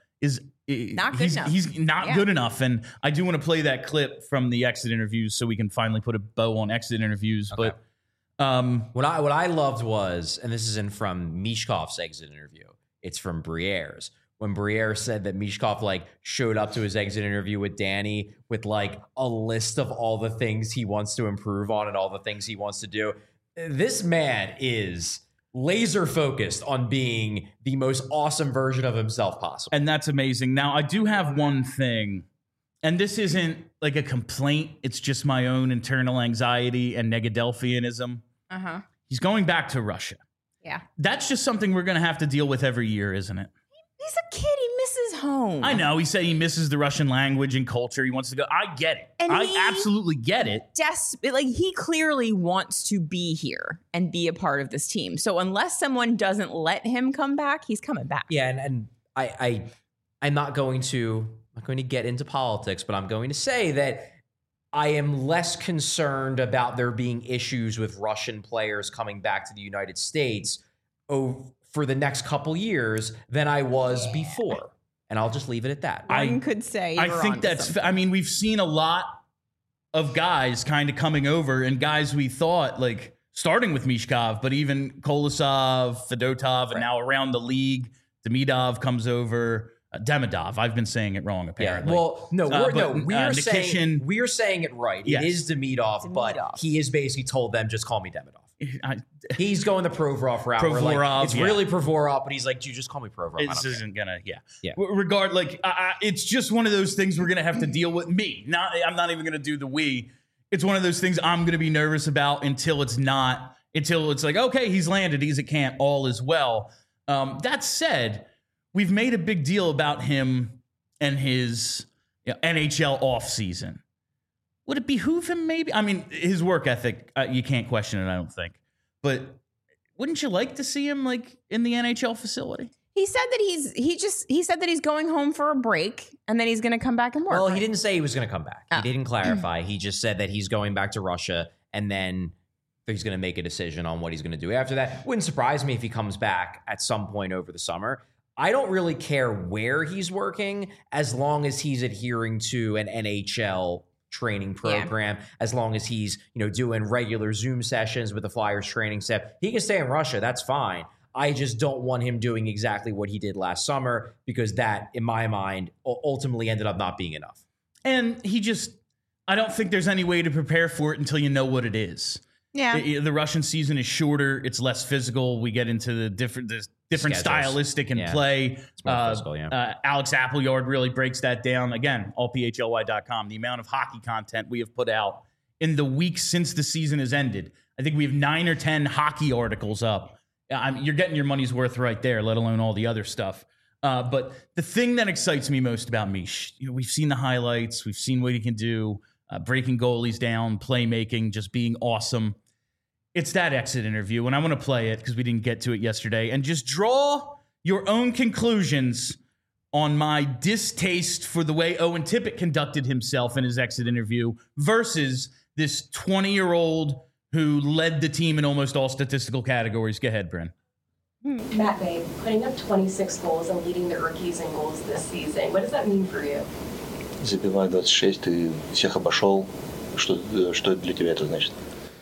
not good enough. He's not good enough. And I do want to play that clip from the exit interviews so we can finally put a bow on exit interviews. Okay. But what I loved was, and this isn't from Mishkov's exit interview, it's from Briere's. When Briere said that Mishkov showed up to his exit interview with Danny with a list of all the things he wants to improve on and all the things he wants to do. This man is laser focused on being the most awesome version of himself possible. And that's amazing. Now, I do have one thing, and this isn't a complaint. It's just my own internal anxiety and Negadelphianism. Uh-huh. He's going back to Russia. Yeah. That's just something we're going to have to deal with every year, isn't it? He's a kid. He misses home. I know. He said he misses the Russian language and culture. He wants to go. I get it. And I absolutely get it. He clearly wants to be here and be a part of this team. So unless someone doesn't let him come back, he's coming back. Yeah, and I'm not going to get into politics, but I'm going to say that I am less concerned about there being issues with Russian players coming back to the United States for the next couple years than I was before. And I'll just leave it at that. One could say I think that's, we've seen a lot of guys kind of coming over and guys we thought starting with Mishkov, but even Kolosov, Fedotov, and now around the league, Demidov comes over. Demidov. I've been saying it wrong, apparently. Yeah. Well, we're saying it right. Yes. It is Demidov, but he has basically told them, just call me Demidov. He's going the Provorov route. Provorov, it's really Provorov, but he's like, dude, just call me Provorov. This isn't gonna, it's just one of those things we're gonna have to deal with. I'm not even gonna do the we. It's one of those things I'm gonna be nervous about until it's okay, he's landed, he's at camp, all is well. That said, we've made a big deal about him and his NHL offseason. Would it behoove him maybe? I mean, his work ethic, you can't question it, I don't think. But wouldn't you like to see him in the NHL facility? He said that he's going home for a break and then he's going to come back and work. Well, he didn't say he was going to come back. He didn't clarify. He just said that he's going back to Russia and then he's going to make a decision on what he's going to do after that. Wouldn't surprise me if he comes back at some point over the summer. I don't really care where he's working as long as he's adhering to an NHL training program, as long as he's, doing regular Zoom sessions with the Flyers training staff. He can stay in Russia. That's fine. I just don't want him doing exactly what he did last summer because that, in my mind, ultimately ended up not being enough. And I don't think there's any way to prepare for it until you know what it is. Yeah. The Russian season is shorter. It's less physical. We get into the different stylistic and play. It's more physical, Alex Appleyard really breaks that down. Again, allphly.com. The amount of hockey content we have put out in the weeks since the season has ended. I think we have 9 or 10 hockey articles up. You're getting your money's worth right there, let alone all the other stuff. But the thing that excites me most about Mish, we've seen the highlights. We've seen what he can do. Breaking goalies down, playmaking, just being awesome. It's that exit interview, and I want to play it because we didn't get to it yesterday, and just draw your own conclusions on my distaste for the way Owen Tippett conducted himself in his exit interview versus this 20-year-old who led the team in almost all statistical categories. Go ahead, Bryn. Matt Bay, putting up 26 goals and leading the rookies in goals this season. What does that mean for you? Забивай 26, ты всех обошел. Что для тебя это значит?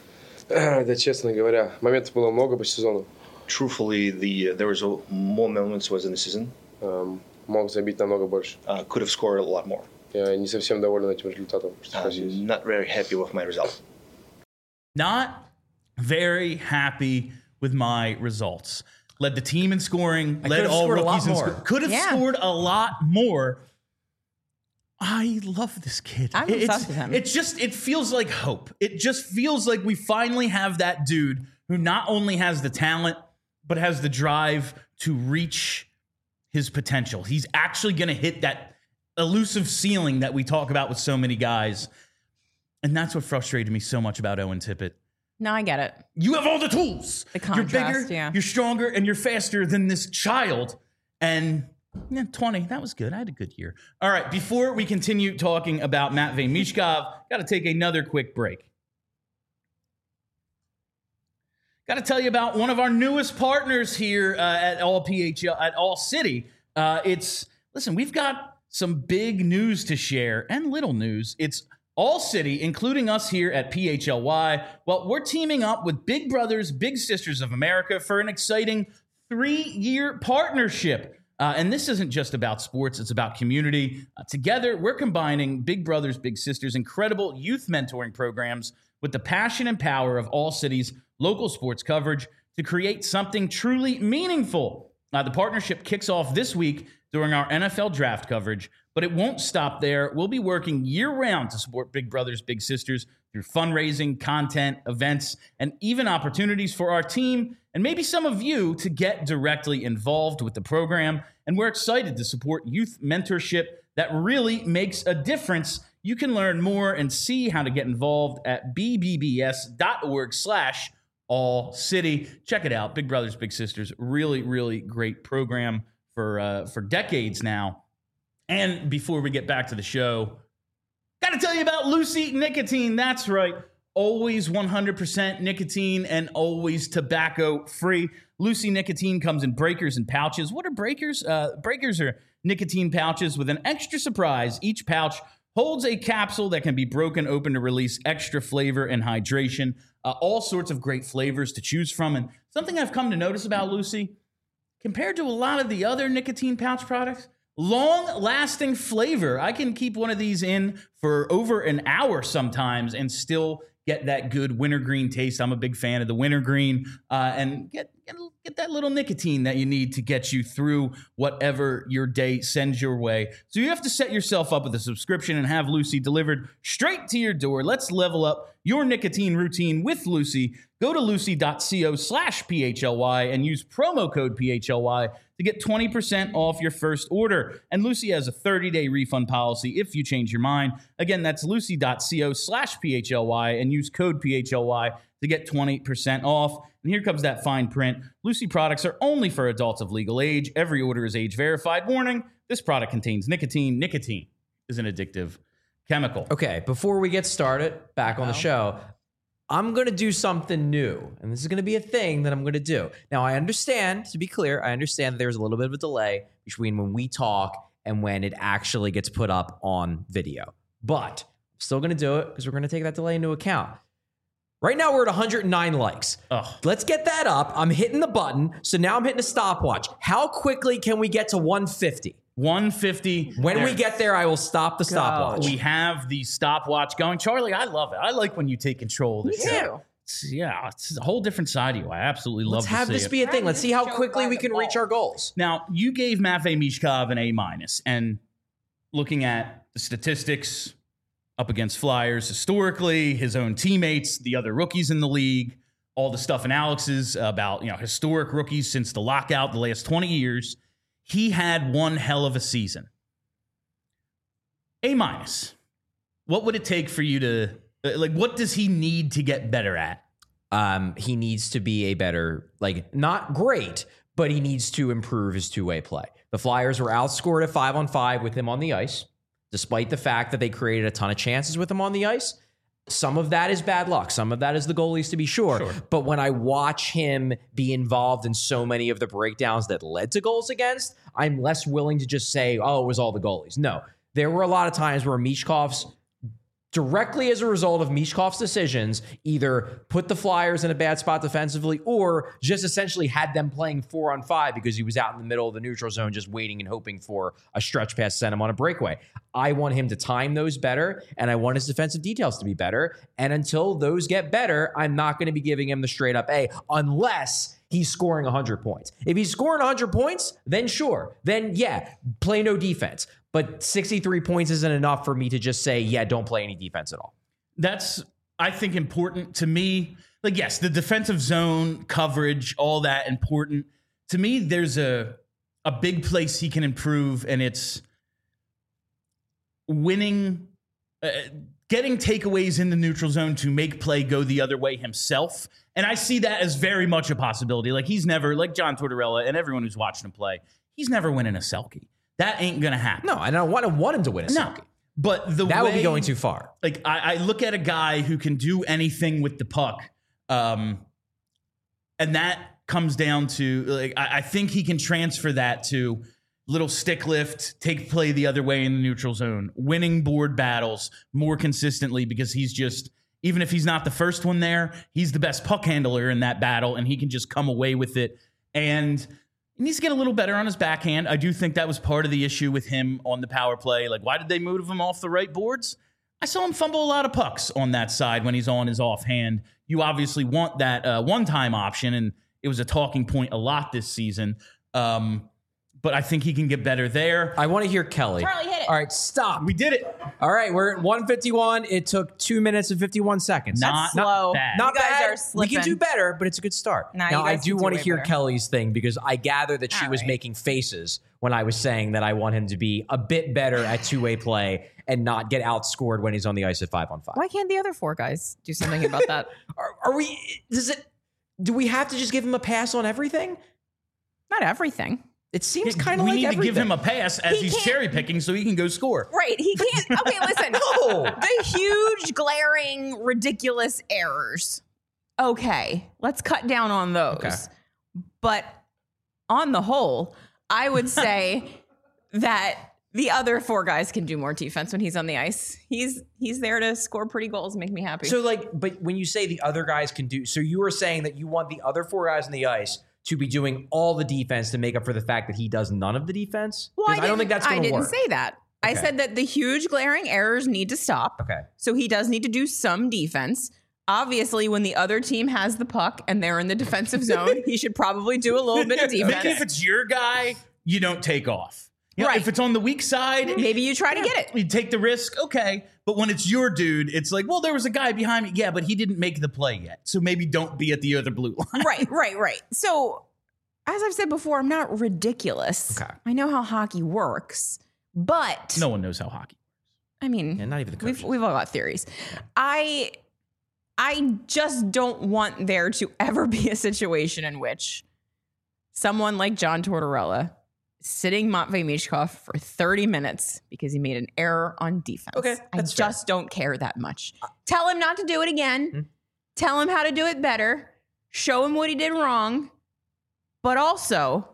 Да, честно говоря, моментов было много по сезону. Truthfully, there was more moments was in the season. Мог забить намного больше. Could have scored a lot more. Я не совсем доволен этим результатом. Not very happy with my result. Not very happy with my results. led the team in scoring, I led could have all scored a lot rookies in more. scoring. Could have Yeah. scored a lot more. I love this kid. I'm obsessed with him. It feels like hope. It just feels like we finally have that dude who not only has the talent, but has the drive to reach his potential. He's actually going to hit that elusive ceiling that we talk about with so many guys. And that's what frustrated me so much about Owen Tippett. No, I get it. You have all the tools. The You're contrast, bigger, yeah. you're stronger, and you're faster than this child. And 20, that was good. I had a good year. All right, before we continue talking about Matvei Mishkov, got to take another quick break. Got to tell you about one of our newest partners here at All PHL, at All City. Listen, we've got some big news to share and little news. It's All City, including us here at PHLY. Well, we're teaming up with Big Brothers Big Sisters of America for an exciting 3-year partnership. And this isn't just about sports, it's about community. Together, we're combining Big Brothers Big Sisters' incredible youth mentoring programs with the passion and power of All City's local sports coverage to create something truly meaningful. The partnership kicks off this week during our NFL draft coverage, but it won't stop there. We'll be working year-round to support Big Brothers Big Sisters through fundraising, content, events, and even opportunities for our team and maybe some of you to get directly involved with the program. And we're excited to support youth mentorship that really makes a difference. You can learn more and see how to get involved at bbbs.org/All City. Check it out. Big Brothers Big Sisters, really, really great program for decades now. And before we get back to the show, got to tell you about Lucy Nicotine. That's right. Always 100% nicotine and always tobacco free. Lucy Nicotine comes in breakers and pouches. What are breakers? Breakers are nicotine pouches with an extra surprise. Each pouch holds a capsule that can be broken open to release extra flavor and hydration. All sorts of great flavors to choose from. And something I've come to notice about Lucy, compared to a lot of the other nicotine pouch products, long-lasting flavor. I can keep one of these in for over an hour sometimes and still get that good wintergreen taste. I'm a big fan of the wintergreen, and get that little nicotine that you need to get you through whatever your day sends your way. So you have to set yourself up with a subscription and have Lucy delivered straight to your door. Let's level up your nicotine routine with Lucy. Go to lucy.co/PHLY and use promo code PHLY to get 20% off your first order. And Lucy has a 30-day refund policy if you change your mind. Again, that's lucy.co/PHLY and use code PHLY to get 20% off. And here comes that fine print. Lucy products are only for adults of legal age. Every order is age verified. Warning, this product contains nicotine. Nicotine is an addictive chemical. Okay, before we get started, back on the show, I'm going to do something new, and this is going to be a thing that I'm going to do. Now, I understand, to be clear, I understand that there's a little bit of a delay between when we talk and when it actually gets put up on video. But I'm still going to do it because we're going to take that delay into account. Right now, we're at 109 likes. Ugh. Let's get that up. I'm hitting the button, so now I'm hitting a stopwatch. How quickly can we get to 150? 150. When we get there, I will stop the stopwatch. We have the stopwatch going. Charlie, I love it. I like when you take control of the show. It's a whole different side of you. I absolutely love Let's to have see this it. be a thing. Let's see how quickly we can reach our goals. Now, you gave Matvei Mishkov an A-, and looking at the statistics up against Flyers historically, his own teammates, the other rookies in the league, all the stuff in Alex's about, historic rookies since the lockout the last 20 years, he had one hell of a season. A-. What would it take for you to, what does he need to get better at? He needs to be a better, not great, but he needs to improve his two-way play. The Flyers were outscored at 5-on-5 with him on the ice, despite the fact that they created a ton of chances with him on the ice. Some of that is bad luck. Some of that is the goalies, to be sure. But when I watch him be involved in so many of the breakdowns that led to goals against, I'm less willing to just say, oh, it was all the goalies. No, there were a lot of times where Mishkov's, directly as a result of Mishkov's decisions, either put the Flyers in a bad spot defensively or just essentially had them playing 4-on-5 because he was out in the middle of the neutral zone just waiting and hoping for a stretch pass to send him on a breakaway. I want him to time those better, and I want his defensive details to be better. And until those get better, I'm not going to be giving him the straight up A unless he's scoring 100 points. If he's scoring 100 points, then sure. Then, yeah, play no defense. But 63 points isn't enough for me to just say, yeah, don't play any defense at all. That's, I think, important to me. Like, yes, the defensive zone coverage, all that important. To me, there's a big place he can improve, and it's winning, getting takeaways in the neutral zone to make play go the other way himself. And I see that as very much a possibility. Like, he's never, like John Tortorella and everyone who's watching him play, he's never winning a Selke. That ain't going to happen. No, and I don't want him to win a Selke. But that would be going too far. Like, I look at a guy who can do anything with the puck, and that comes down to, like, I think he can transfer that to little stick lift, take play the other way in the neutral zone, winning board battles more consistently, because he's just, even if he's not the first one there, he's the best puck handler in that battle, and he can just come away with it. And he needs to get a little better on his backhand. I do think that was part of the issue with him on the power play. Like, why did they move him off the right boards? I saw him fumble a lot of pucks on that side when he's on his offhand. You obviously want that one-time option, and it was a talking point a lot this season. But I think he can get better there. I want to hear Kelly. Charlie, hit it. All right, stop. We did it. All right, we're at 151. It took 2 minutes and 51 seconds. Not slow. bad. Not You guys bad. are slipping. We can do better, but it's a good start. Nah, now, you I guys do can do want to way hear better. Kelly's thing, because I gather that she All was right. making faces when I was saying that I want him to be a bit better at two-way play and not get outscored when he's on the ice at 5-on-5. Why can't the other four guys do something about that? Are we? Do we have to just give him a pass on everything? Not everything. It seems kind of we like need everything. to give him a pass as He he's can't- cherry picking so he can go score. Right. He can't. Okay, listen. No. The huge, glaring, ridiculous errors. Okay, let's cut down on those. Okay. But on the whole, I would say that the other four guys can do more defense when he's on the ice. He's there to score pretty goals and make me happy. So, like, but when you say the other guys can do, so you were saying that you want the other four guys on the ice to be doing all the defense to make up for the fact that he does none of the defense? well, 'Cause I don't think that's going to work. I didn't say that. I Okay. said that the huge, glaring errors need to stop. Okay. So he does need to do some defense. Obviously, when the other team has the puck and they're in the defensive zone, he should probably do a little bit of Maybe if defense. it's your guy, you don't take off. You know, Right. If it's on the weak side, Maybe you try to get it. you take the risk, okay. But when it's your dude, it's like, well, there was a guy behind me. Yeah, but he didn't make the play yet. So maybe don't be at the other blue line. Right. So, as I've said before, I'm not ridiculous. Okay. I know how hockey works, but No one knows how hockey. I mean, Yeah, not even the coaches. we've all got theories. I just don't want there to ever be a situation in which someone like John Tortorella is sitting Matvei Michkov for 30 minutes because he made an error on defense. Okay, I that's fair. just don't care that much. Tell him not to do it again. Hmm. Tell him how to do it better. Show him what he did wrong. But also,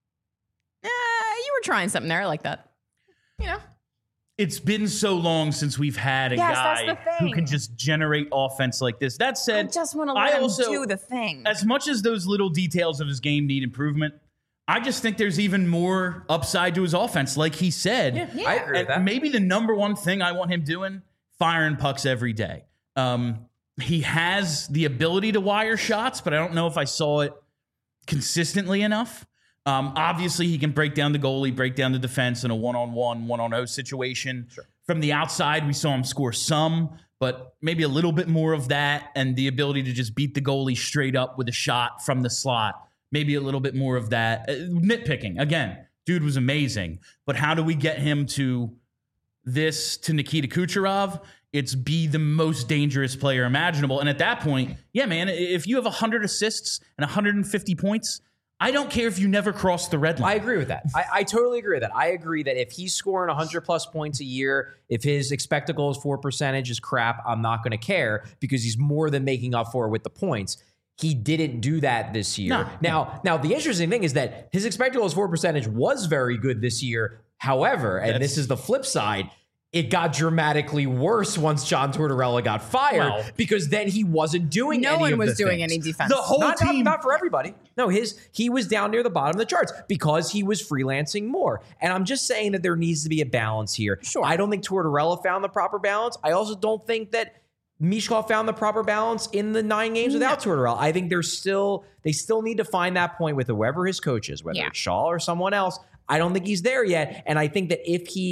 you were trying something there. I like that. You know? It's been so long since we've had a Yes, that's guy the thing. who can just generate offense like this. That I said, just want to I let him also- do the thing. as much as those little details of his game need improvement, I just think there's even more upside to his offense. Like he said, Yeah. I agree with that. And maybe the number one thing I want him doing, firing pucks every day. He has the ability to wire shots, but I don't know if I saw it consistently enough. Obviously, he can break down the goalie, break down the defense in a one-on-one, one-on-0 situation. Sure. From the outside, we saw him score some, but maybe a little bit more of that, and the ability to just beat the goalie straight up with a shot from the slot. Maybe a little bit more of that. Nitpicking. Again, dude was amazing. But how do we get him to Nikita Kucherov? It's be the most dangerous player imaginable. And at that point, yeah, man, if you have 100 assists and 150 points, I don't care if you never cross the red line. I agree with that. I totally agree with that. I agree that if he's scoring 100 plus points a year, if his expected goals for percentage is crap, I'm not going to care because he's more than making up for it with the points. He didn't do that this year. No. Now, the interesting thing is that his expected goals for percentage was very good this year. However, and this is the flip side, it got dramatically worse once John Tortorella got fired Well, because then he wasn't doing No any one of was the doing things. any defense. The whole Not team. for everybody. No, he was down near the bottom of the charts because he was freelancing more. And I'm just saying that there needs to be a balance here. Sure. I don't think Tortorella found the proper balance. I also don't think that Mishkov found the proper balance in the 9 games without Tortorella. I think they still need to find that point with whoever his coach is, whether it's Shaw or someone else. I don't think he's there yet. And I think that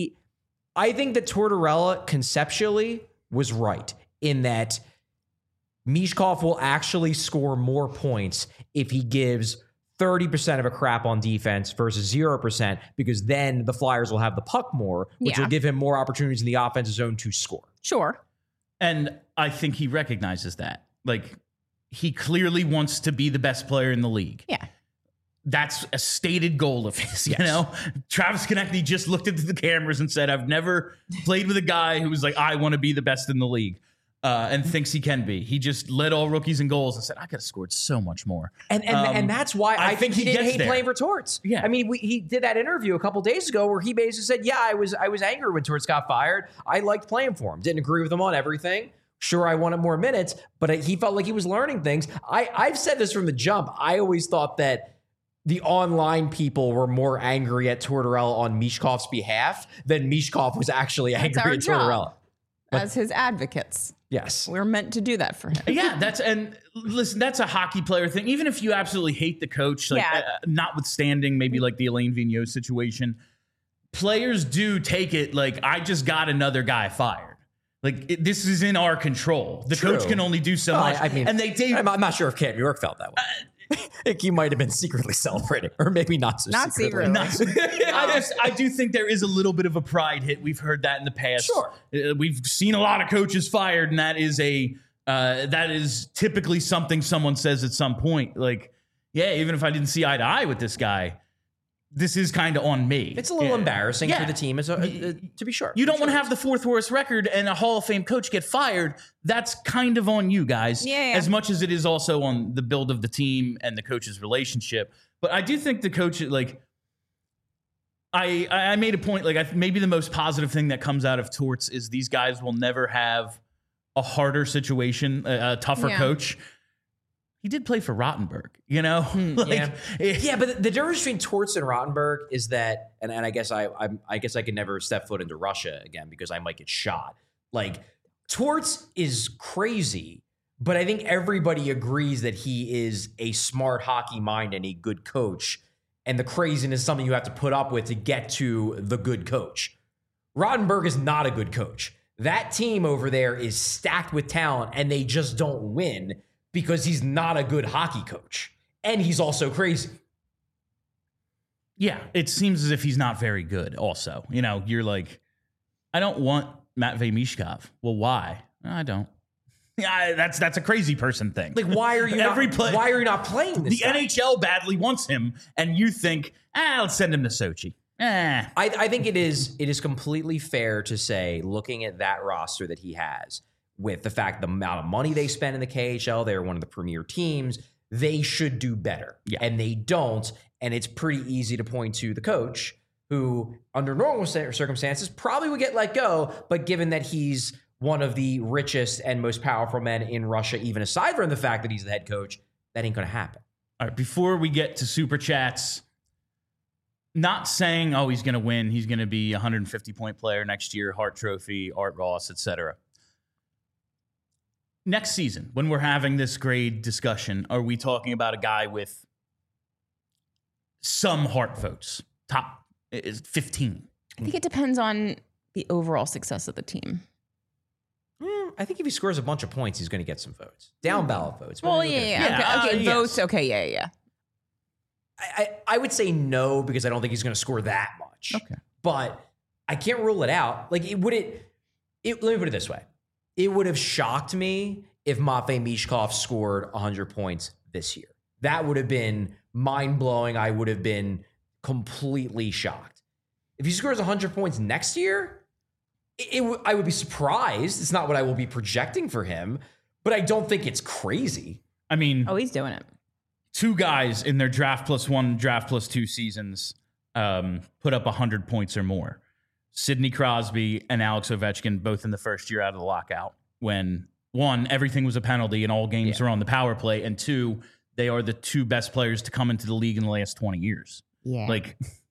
I think that Tortorella conceptually was right in that Mishkov will actually score more points if he gives 30% of a crap on defense versus 0%, because then the Flyers will have the puck more, which will give him more opportunities in the offensive zone to score. Sure. And I think he recognizes that. Like, he clearly wants to be the best player in the league. Yeah. That's a stated goal of his, you know? Travis Konecny just looked into the cameras and said, I've never played with a guy who was like, I want to be the best in the league. And thinks he can be. He just led all rookies in goals and said, I could have scored so much more. And that's why I think he didn't hate playing for Torts. Yeah. I mean, he did that interview a couple days ago where he basically said, yeah, I was angry when Torts got fired. I liked playing for him. Didn't agree with him on everything. Sure, I wanted more minutes, but he felt like he was learning things. I've said this from the jump. I always thought that the online people were more angry at Tortorella on Mishkov's behalf than Mishkov was actually angry at Tortorella. As his advocates. Yes. We're meant to do that for him. Yeah, that's a hockey player thing. Even if you absolutely hate the coach, like notwithstanding maybe like the Alain Vigneault situation, players do take it like, I just got another guy fired. Like, this is in our control. The coach can only do so much. I mean, and I'm not sure if Cam York felt that way. I think he might have been secretly celebrating, or maybe not so secretly. I do think there is a little bit of a pride hit. We've heard that in the past. Sure. We've seen a lot of coaches fired, and that is typically something someone says at some point. Like, yeah, even if I didn't see eye to eye with this guy, this is kind of on me. It's a little embarrassing for the team, to be sure. You don't want to have the 4th worst record and a Hall of Fame coach get fired. That's kind of on you guys, as much as it is also on the build of the team and the coach's relationship. But I do think the coach, like, I made a point, like, maybe the most positive thing that comes out of Torts is these guys will never have a harder situation, a tougher coach. He did play for Rottenberg, you know? But the difference between Torts and Rottenberg is that, and I guess I could never step foot into Russia again because I might get shot. Like, Torts is crazy, but I think everybody agrees that he is a smart hockey mind and a good coach. And the craziness is something you have to put up with to get to the good coach. Rottenberg is not a good coach. That team over there is stacked with talent, and they just don't win because he's not a good hockey coach. And he's also crazy. Yeah, it seems as if he's not very good also. You know, you're like, I don't want Matvei Mishkov. Well, why? I don't. Yeah, that's a crazy person thing. Like, why are you why are you not playing this The guy? NHL badly wants him, and you think, let's send him to Sochi. I think it is completely fair to say, looking at that roster that he has, with the fact the amount of money they spend in the KHL, they're one of the premier teams, they should do better. Yeah. And they don't. And it's pretty easy to point to the coach who, under normal circumstances, probably would get let go. But given that he's one of the richest and most powerful men in Russia, even aside from the fact that he's the head coach, that ain't going to happen. All right, before we get to Super Chats, not saying, he's going to win. He's going to be a 150-point player next year, Hart Trophy, Art Ross, etc. Next season, when we're having this grade discussion, are we talking about a guy with some Hart votes? Top is 15. I think it depends on the overall success of the team. I think if he scores a bunch of points, he's going to get some votes. Down ballot votes. Well, Okay, votes. Yes. Okay, yeah. I would say no, because I don't think he's going to score that much. Okay. But I can't rule it out. Like, let me put it this way. It would have shocked me if Matvei Mishkov scored 100 points this year. That would have been mind-blowing. I would have been completely shocked. If he scores 100 points next year, I would be surprised. It's not what I will be projecting for him, but I don't think it's crazy. I mean... he's doing it. 2 guys in their draft plus 1, draft plus 2 seasons put up 100 points or more. Sidney Crosby and Alex Ovechkin, both in the first year out of the lockout, when 1, everything was a penalty and all games were on the power play, and 2, they are the 2 best players to come into the league in the last 20 years. Yeah. Like,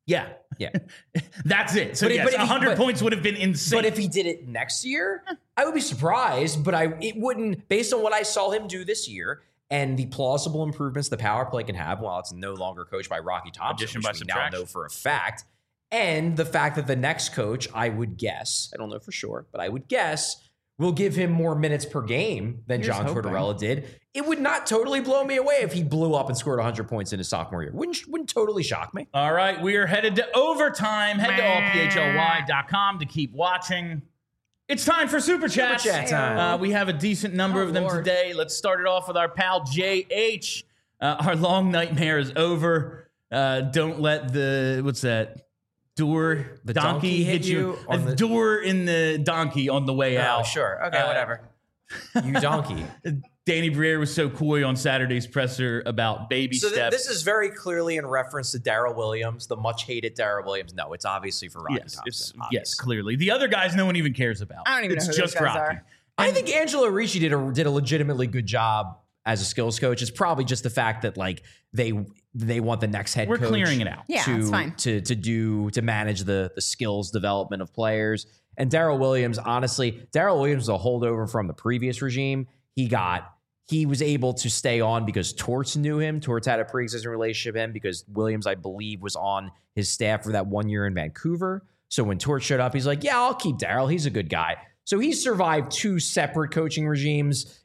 Yeah. Yeah. That's it. So But yes, if he- 100 points would have been insane. But if he did it next year, I would be surprised. But it wouldn't, based on what I saw him do this year and the plausible improvements the power play can have while it's no longer coached by Rocky Thompson, Addition which by we now subtraction. know for a fact, and the fact that the next coach, I would guess, I don't know for sure, but I would guess, will give him more minutes per game than Here's John hoping. Tortorella did. It would not totally blow me away if he blew up and scored 100 points in his sophomore year. Wouldn't totally shock me. All right, we are headed to overtime. Head to allphly.com to keep watching. It's time for Super Chats. Chat time. We have a decent number of them Lord. today. Let's start it off with our pal JH. Our long nightmare is over. Don't let the, what's that? Door, The donkey donkey hit you A on the- door in the donkey on the way out. Oh, sure. Okay, whatever. You donkey. Danny Briere was so coy on Saturday's presser about baby So steps. this is very clearly in reference to Darrell Williams, the much hated Darrell Williams. No, it's obviously for Rocky yes, Thompson. yes, obviously. clearly. The other guys, no one even cares about. I don't even it's know who those just guys Rocky. are. I think Angelo Ricci did a legitimately good job as a skills coach. It's probably just the fact that like they want the next head We're coach. clearing it out. Yeah, to, it's fine. to manage the skills development of players. And Darrell Williams, honestly, Darrell Williams was a holdover from the previous regime. He was able to stay on because Torts knew him. Torts had a pre-existing relationship with him because Williams, I believe, was on his staff for that 1 year in Vancouver. So when Torts showed up, he's like, yeah, I'll keep Darrell. He's a good guy. So he survived 2 separate coaching regimes.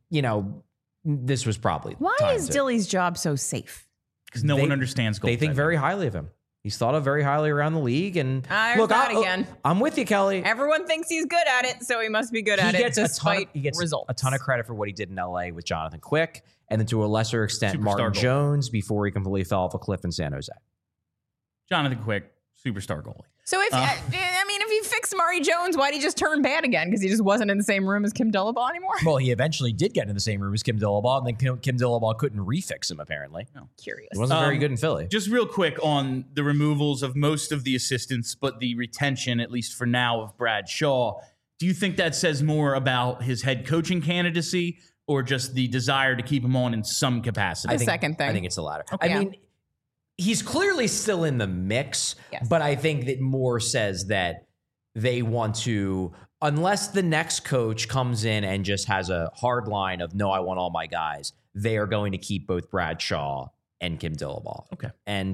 This was probably Why time is to- Dilly's job so safe? Because no They- one understands goaltending. They think very highly of him. He's thought of very highly around the league. And There's that again. I'm with you, Kelly. Everyone thinks he's good at it, so he must be good at it despite he gets results. a ton of credit for what he did in LA with Jonathan Quick, and then to a lesser extent, Superstar Martin goal. Jones before he completely fell off a cliff in San Jose. Jonathan Quick, superstar goalie. So if if he fixed Murray Jones, why'd he just turn bad again? Because he just wasn't in the same room as Kim Dillabaugh anymore? Well, he eventually did get in the same room as Kim Dillabaugh, and then Kim Dillabaugh couldn't refix him, apparently. Curious. He wasn't very good in Philly. Just real quick on the removals of most of the assistants, but the retention, at least for now, of Brad Shaw. Do you think that says more about his head coaching candidacy or just the desire to keep him on in some capacity? second thing. I think it's the latter. Okay. I mean, he's clearly still in the mix, Yes. but I think that more says that they want to, unless the next coach comes in and just has a hard line of, no, I want all my guys, they are going to keep both Brad Shaw and Kim Dillabaugh. Okay. And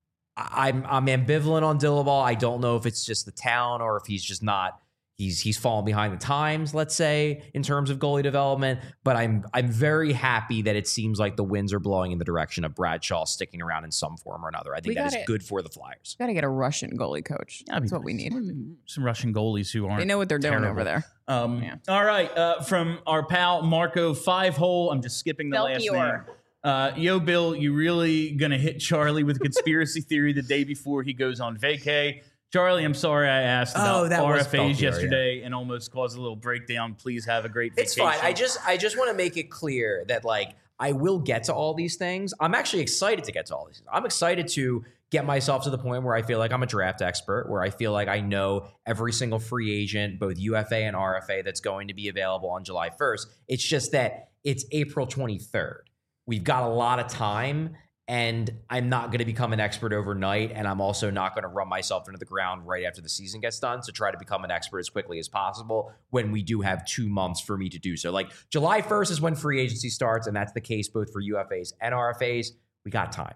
I'm ambivalent on Dillabaugh. I don't know if it's just the talent or if he's just not, he's fallen behind the times, let's say, in terms of goalie development. But I'm very happy that it seems like the winds are blowing in the direction of Brad Shaw sticking around in some form or another. I think We that is got it. good for the Flyers. Got to get a Russian goalie coach. That'd be That's what we nice. need. Some Russian goalies who aren't. They know what they're doing terrible. over there. Yeah. All right. From our pal Marco 5-hole. I'm just skipping the last Belchior. name. Yo, Bill, you really going to hit Charlie with a conspiracy theory the day before he goes on vacay? Charlie, I'm sorry I asked about that was RFAs Belchior, yesterday and almost caused a little breakdown. Please have a great vacation. It's fine. I just want to make it clear that like I will get to all these things. I'm actually excited to get to all these things. I'm excited to get myself to the point where I feel like I'm a draft expert, where I feel like I know every single free agent, both UFA and RFA, that's going to be available on July 1st. It's just that it's April 23rd. We've got a lot of time. And I'm not going to become an expert overnight. And I'm also not going to run myself into the ground right after the season gets done to try to become an expert as quickly as possible when we do have 2 months for me to do so. Like July 1st is when free agency starts. And that's the case both for UFAs and RFAs. We got time.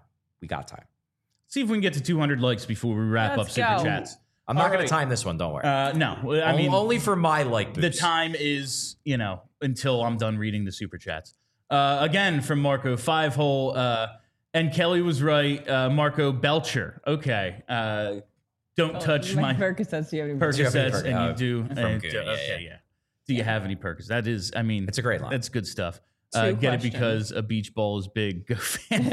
See if we can get to 200 likes before we wrap Let's up Super go. Chats. I'm not All going right. to time this one. Don't worry. No, I mean, only for my like the boost. time is, until I'm done reading the Super Chats. Again, from Marco 5-hole. And Kelly was right. Marco Belcher. Okay. Don't touch my Percocets. Do you have any Percocets, and you Oh, do. from and, Goon, yeah. Do you have any Percocets? That is, I mean, It's a great line. That's good stuff. Two Get it questions. because a beach ball is big. Go fan.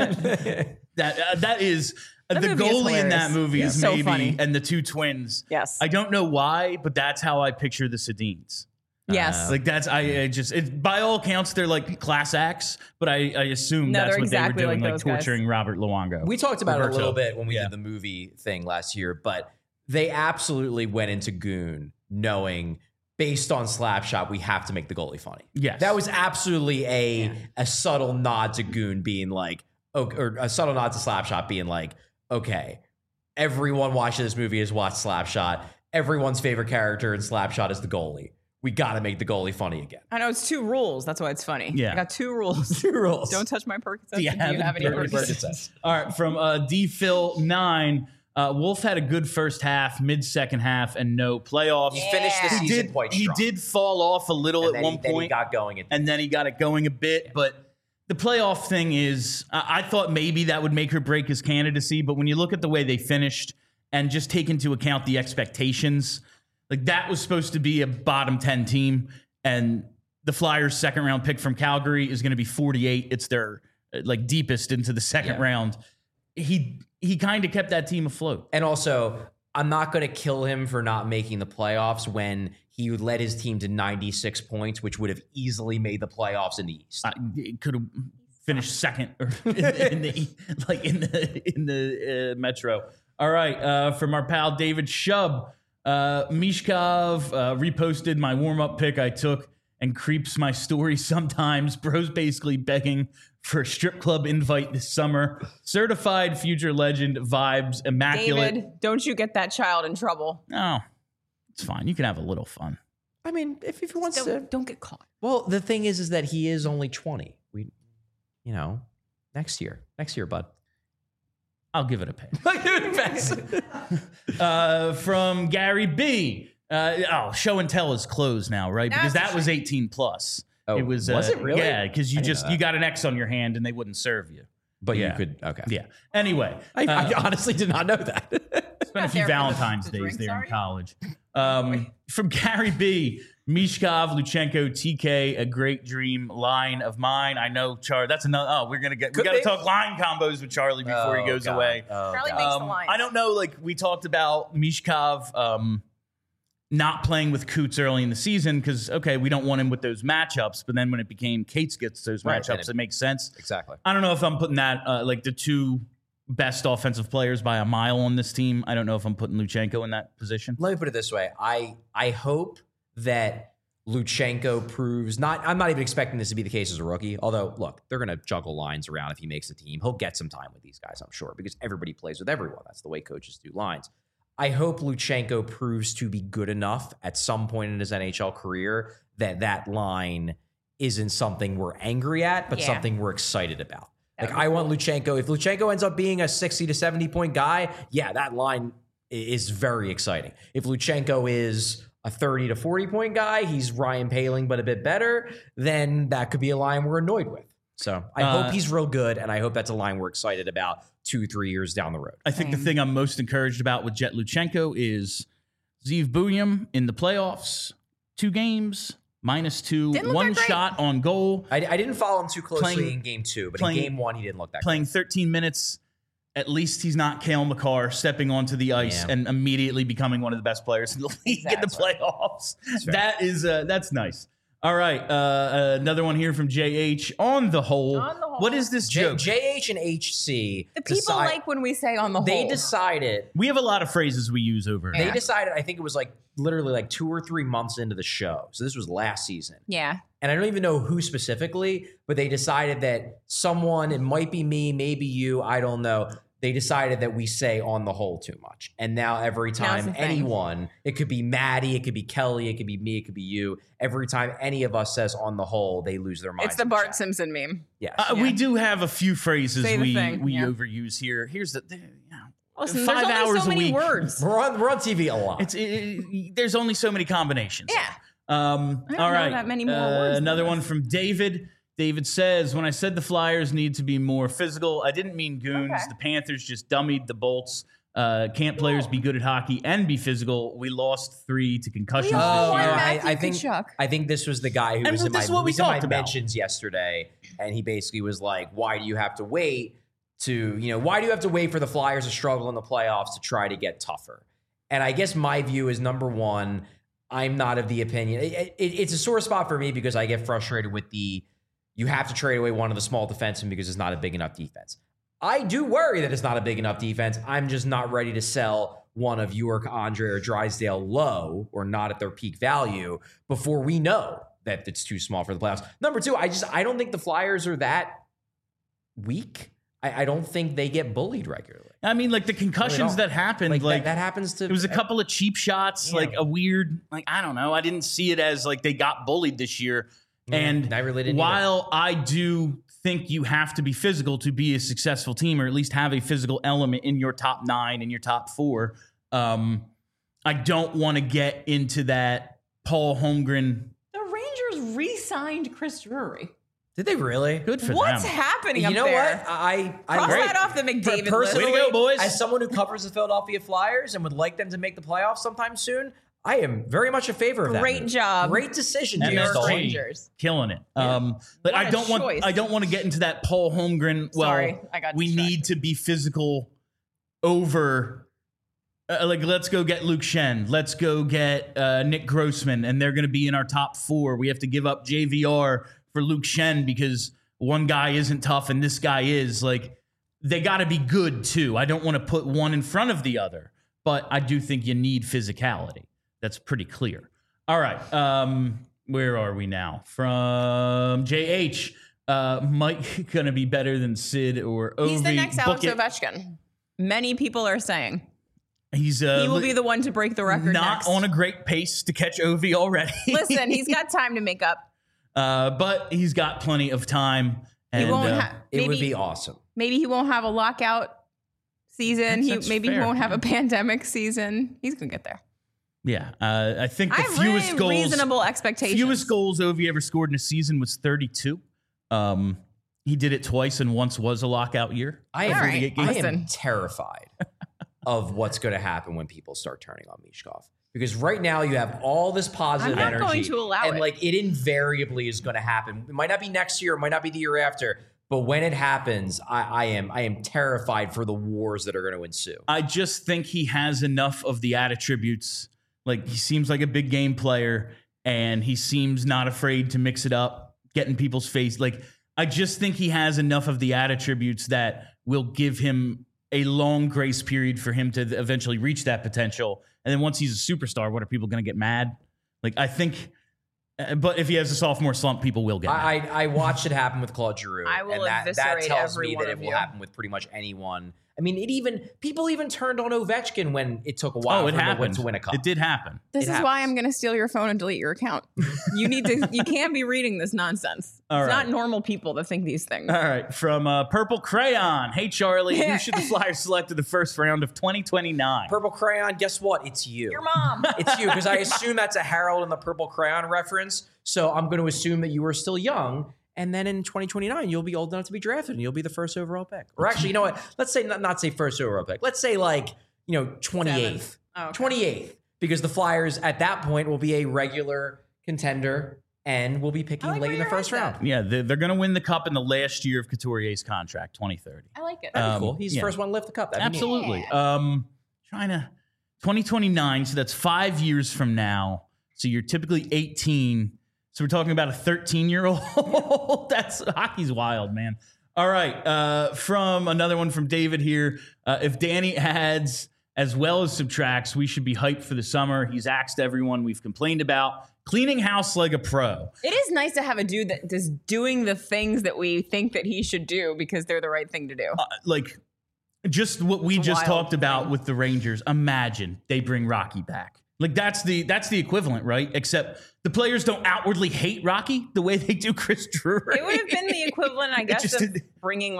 that is That the movie is goalie in that hilarious. movie Yeah. is So maybe funny. and the 2 twins. Yes. I don't know why, but that's how I picture the Sedins. Yes. Like that's by all accounts they're like class acts, but I assume No, that's they're what exactly they were doing, like like those guys. torturing Robert Luongo. We talked about it a Roberto. little bit when we Yeah. did the movie thing last year, but they absolutely went into Goon knowing based on Slapshot, we have to make the goalie funny. Yes. That was absolutely a subtle nod to Goon being like, or a subtle nod to Slapshot being like, okay. everyone watching this movie has watched Slapshot. Everyone's favorite character in Slapshot is the goalie. We got to make the goalie funny again. I know it's 2 rules. That's why it's funny. Yeah. I got 2 rules. 2 rules. Don't touch my Percocets. Do you have any any Percocets? All right, from DPhil9, Wolf had a good first half, mid-second half, and no playoffs. He finished the season quite strong. He did fall off a little at one point. Then he got going. And then he got it going a bit. But the playoff thing is, I thought maybe that would make or break his candidacy. But when you look at the way they finished and just take into account the expectations, like that was supposed to be a bottom 10 team. And the Flyers' second-round pick from Calgary is going to be 48. It's their like deepest into the second round. He kind of kept that team afloat. And also, I'm not going to kill him for not making the playoffs when he led his team to 96 points, which would have easily made the playoffs in the East. It could have finished second or in the Metro. All right, from our pal David Shub, Mishkov reposted my warm-up pick I took and creeps my story sometimes. Bro's basically begging for a strip club invite this summer. Certified future legend vibes, immaculate. David, don't you get that child in trouble. No, it's fine. You can have a little fun. I mean, if he wants to. Don't get caught. Well, the thing is that he is only 20. Next year, bud. I'll give it a pass. From Gary B. Show and tell is closed now, right? Because that was 18 plus. Oh, it was it really? Yeah, because you got an X on your hand and they wouldn't serve you. But yeah. you could, okay. Yeah. Anyway. I honestly did not know that. Spent a few Valentine's days there in college. From Gary B. Mishkov, Luchenko, TK, a great dream line of mine. I know, Char. That's another. We got to talk line combos with Charlie before he goes away. Charlie makes the lines. I don't know. Like we talked about Mishkov not playing with Coots early in the season because we don't want him with those matchups. But then when it became Cates gets those matchups, it makes sense. Exactly. I don't know if I'm putting that like the 2 best offensive players by a mile on this team. I don't know if I'm putting Luchenko in that position. Let me put it this way. I hope that Luchenko proves I'm not even expecting this to be the case as a rookie. Although, look, they're going to juggle lines around if he makes the team. He'll get some time with these guys, I'm sure, because everybody plays with everyone. That's the way coaches do lines. I hope Luchenko proves to be good enough at some point in his NHL career that line isn't something we're angry at, but something we're excited about. Like, I want Luchenko. If Luchenko ends up being a 60 to 70 point guy, that line is very exciting. If Luchenko is a 30 to 40 point guy, he's Ryan Poehling, but a bit better, then that could be a line we're annoyed with. So I hope he's real good, and I hope that's a line we're excited about 2-3 years down the road. I think the thing I'm most encouraged about with Jet Luchenko is Zeev Buium in the playoffs, 2 games, -2, 1 shot on goal. I didn't follow him too closely in game 2, but in game 1, he didn't look that playing great. 13 minutes. At least he's not Cale Makar stepping onto the ice and immediately becoming one of the best players in the league in the playoffs. That's nice. All right, another one here from JH. On the whole, what is this joke? JH and HC. The people like when we say on the whole. They decided. We have a lot of phrases we use over. They decided, I think it was literally 2 or 3 months into the show. So this was last season. Yeah. And I don't even know who specifically, but they decided that someone, it might be me, maybe you, I don't know. They decided that we say on the whole too much. And now every time anyone, it could be Maddie, it could be Kelly, it could be me, it could be you. Every time any of us says on the whole, they lose their minds. It's the Bart Simpson meme. Yes. We do have a few phrases we overuse here. Here's the Listen, 5 there's only hours so a many week. words. We're on TV a lot. There's only so many combinations. Yeah. All right. That many more words. Another one from David. David says, when I said the Flyers need to be more physical, I didn't mean goons. Okay. The Panthers just dummied the Bolts. Can't players be good at hockey and be physical? We lost 3 to concussions this year. I think this was the guy who was in my mentions yesterday, and he basically was like, why do you have to wait for the Flyers to struggle in the playoffs to try to get tougher? And I guess my view is, number one, I'm not of the opinion. It's a sore spot for me because I get frustrated with you have to trade away one of the small defensemen because it's not a big enough defense. I do worry that it's not a big enough defense. I'm just not ready to sell one of York, Andre, or Drysdale low or not at their peak value before we know that it's too small for the playoffs. Number two, I don't think the Flyers are that weak. I don't think they get bullied regularly. I mean, like the concussions that happened, like that happens to. It was a couple of cheap shots, like a weird, like I don't know. I didn't see it as like they got bullied this year. And I really didn't while I do think you have to be physical to be a successful team, or at least have a physical element in your top 9 and your top 4, I don't want to get into that Paul Holmgren. The Rangers re-signed Chris Drury. Did they really? Good for What's them. happening You up know there? what? I Cross that off the McDavid list. Way to go, boys. As someone who covers the Philadelphia Flyers and would like them to make the playoffs sometime soon, I am very much a favor of that. Great move. job. Great decision, James MSG. Dolan. Rangers. Killing it. Yeah. But What I a don't choice. want to get into that Paul Holmgren. Well, Sorry, I got we distracted. need to be physical over. Like, let's go get Luke Shen. Let's go get Nick Grossman, and they're going to be in our top 4. We have to give up JVR for Luke Shen because one guy isn't tough and this guy is. Like, they got to be good too. I don't want to put one in front of the other, but I do think you need physicality. That's pretty clear. All right. Where are we now? From JH. Mike going to be better than Sid or Ovi. He's the next Alex Book it. Ovechkin. Many people are saying He's he will be the one to break the record not next. on a great pace to catch Ovi already. Listen, he's got time to make up. But he's got plenty of time. And He won't have. It would Maybe, be awesome. maybe he won't have a lockout season. That's Maybe fair. he won't have a pandemic season. He's gonna get there. yeah, I think the I have fewest really goals, reasonable expectations. fewest goals Ovi ever scored in a season was 32. He did it twice, and once was a lockout year. I All am, right, I am listen. terrified of what's going to happen when people start turning on Mishkov. Because right now you have all this positive I'm not energy. going to allow and it. like it invariably is going to happen. It might not be next year, it might not be the year after. But when it happens, I am terrified for the wars that are going to ensue. I just think he has enough of the attributes. Like, he seems like a big game player, and he seems not afraid to mix it up, get in people's face. Like, I just think he has enough of the attributes that will give him a long grace period for him to eventually reach that potential. And then once he's a superstar, what are people going to get mad? Like, I think, but if he has a sophomore slump, people will get mad. I watched it happen with Claude Giroux. I will and that eviscerate tells every me one that it of will you. happen with pretty much anyone. I mean, people even turned on Ovechkin when it took a while it for him happened. to win a cup. It did happen. This It is why happens. I'm going to steal your phone and delete your account. You can't be reading this nonsense. All It's right. not normal people that think these things. All right, from Purple Crayon. Hey, Charlie, who should the Flyers select in the first round of 2029? Purple Crayon, guess what? It's you. Your mom. It's you, because I assume that's a Harold and the Purple Crayon reference. So I'm going to assume that you are still young. And then in 2029, you'll be old enough to be drafted and you'll be the first overall pick. Or actually, you know what? Let's say not say first overall pick. Let's say 28th. Oh, okay. 28th. Because the Flyers at that point will be a regular contender and will be picking I like late where in the your first head's round. at. Yeah, they're going to win the cup in the last year of Couturier's contract, 2030. I like it. That'd be cool. He's the yeah. first one to lift the cup. That'd be neat. Absolutely. Trying to 2029, so that's 5 years from now. So you're typically 18. So we're talking about a 13-year-old. That's hockey's wild, man. All right. From another one from David here. If Danny adds as well as subtracts, we should be hyped for the summer. He's asked everyone we've complained about. Cleaning house like a pro. It is nice to have a dude that is doing the things that we think that he should do because they're the right thing to do. Like, just what we It's a just wild talked about thing. with the Rangers. Imagine they bring Rocky back. Like, that's the equivalent, right? Except the players don't outwardly hate Rocky the way they do Chris Drury. It would have been the equivalent, I guess, just of did- bringing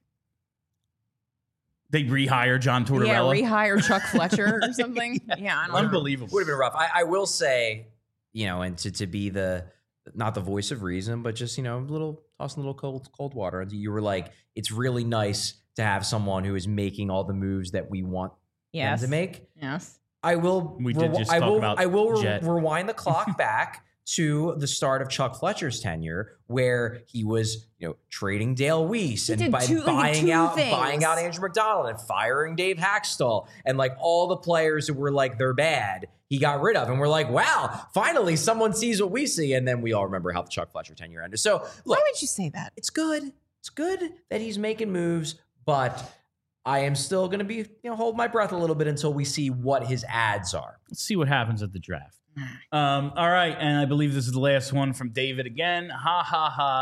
They rehire John Tortorella. rehire Chuck Fletcher or something. Yeah, I don't know. Unbelievable. Would have been rough. I will say, and to be not the voice of reason, but just, tossing a little cold water. And you were like, it's really nice to have someone who is making all the moves that we want Yes. them to make. Yes. I will. We did just talk about Jet. Rewind the clock back to the start of Chuck Fletcher's tenure, where he was, trading Dale Weiss and did buying out things. Andrew McDonald and firing Dave Haxtell and like all the players who were like they're bad. He got rid of, and we're like, wow, finally someone sees what we see, and then we all remember how the Chuck Fletcher tenure ended. So Why look, would you say that? it's good. It's good that he's making moves, but I am still going to be, hold my breath a little bit until we see what his ads are. Let's see what happens at the draft. All right, and I believe this is the last one from David again. Ha ha ha.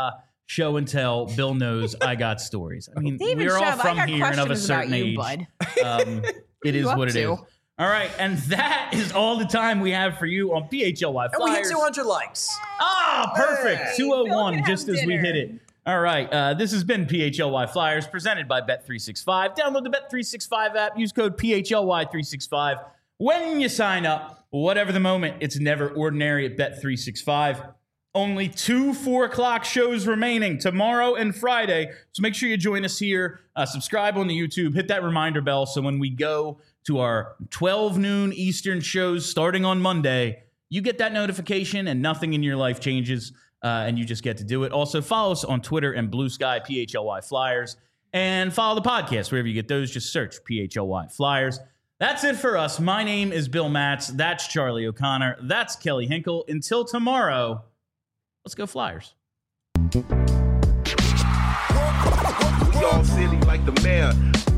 show and tell. Bill knows I got stories. I mean, David we're all Chubb, I from got here and of a questions certain about you, age. bud. It is you up what it to? is. All right, and that is all the time we have for you on PHLY Flyers. And we hit 200 likes. Ah, perfect. Hey. 201, Bill can just have as we dinner. hit it. All right, this has been PHLY Flyers presented by Bet365. Download the Bet365 app. Use code PHLY365 when you sign up. Whatever the moment, it's never ordinary at Bet365. Only 2 4 o'clock shows remaining tomorrow and Friday. So make sure you join us here. Subscribe on the YouTube. Hit that reminder bell so when we go to our 12 noon Eastern shows starting on Monday, you get that notification and nothing in your life changes. And you just get to do it. Also, follow us on Twitter and Blue Sky, PHLY Flyers. And follow the podcast wherever you get those. Just search PHLY Flyers. That's it for us. My name is Bill Matz. That's Charlie O'Connor. That's Kelly Hinkle. Until tomorrow, let's go Flyers. Y'all silly like the mayor.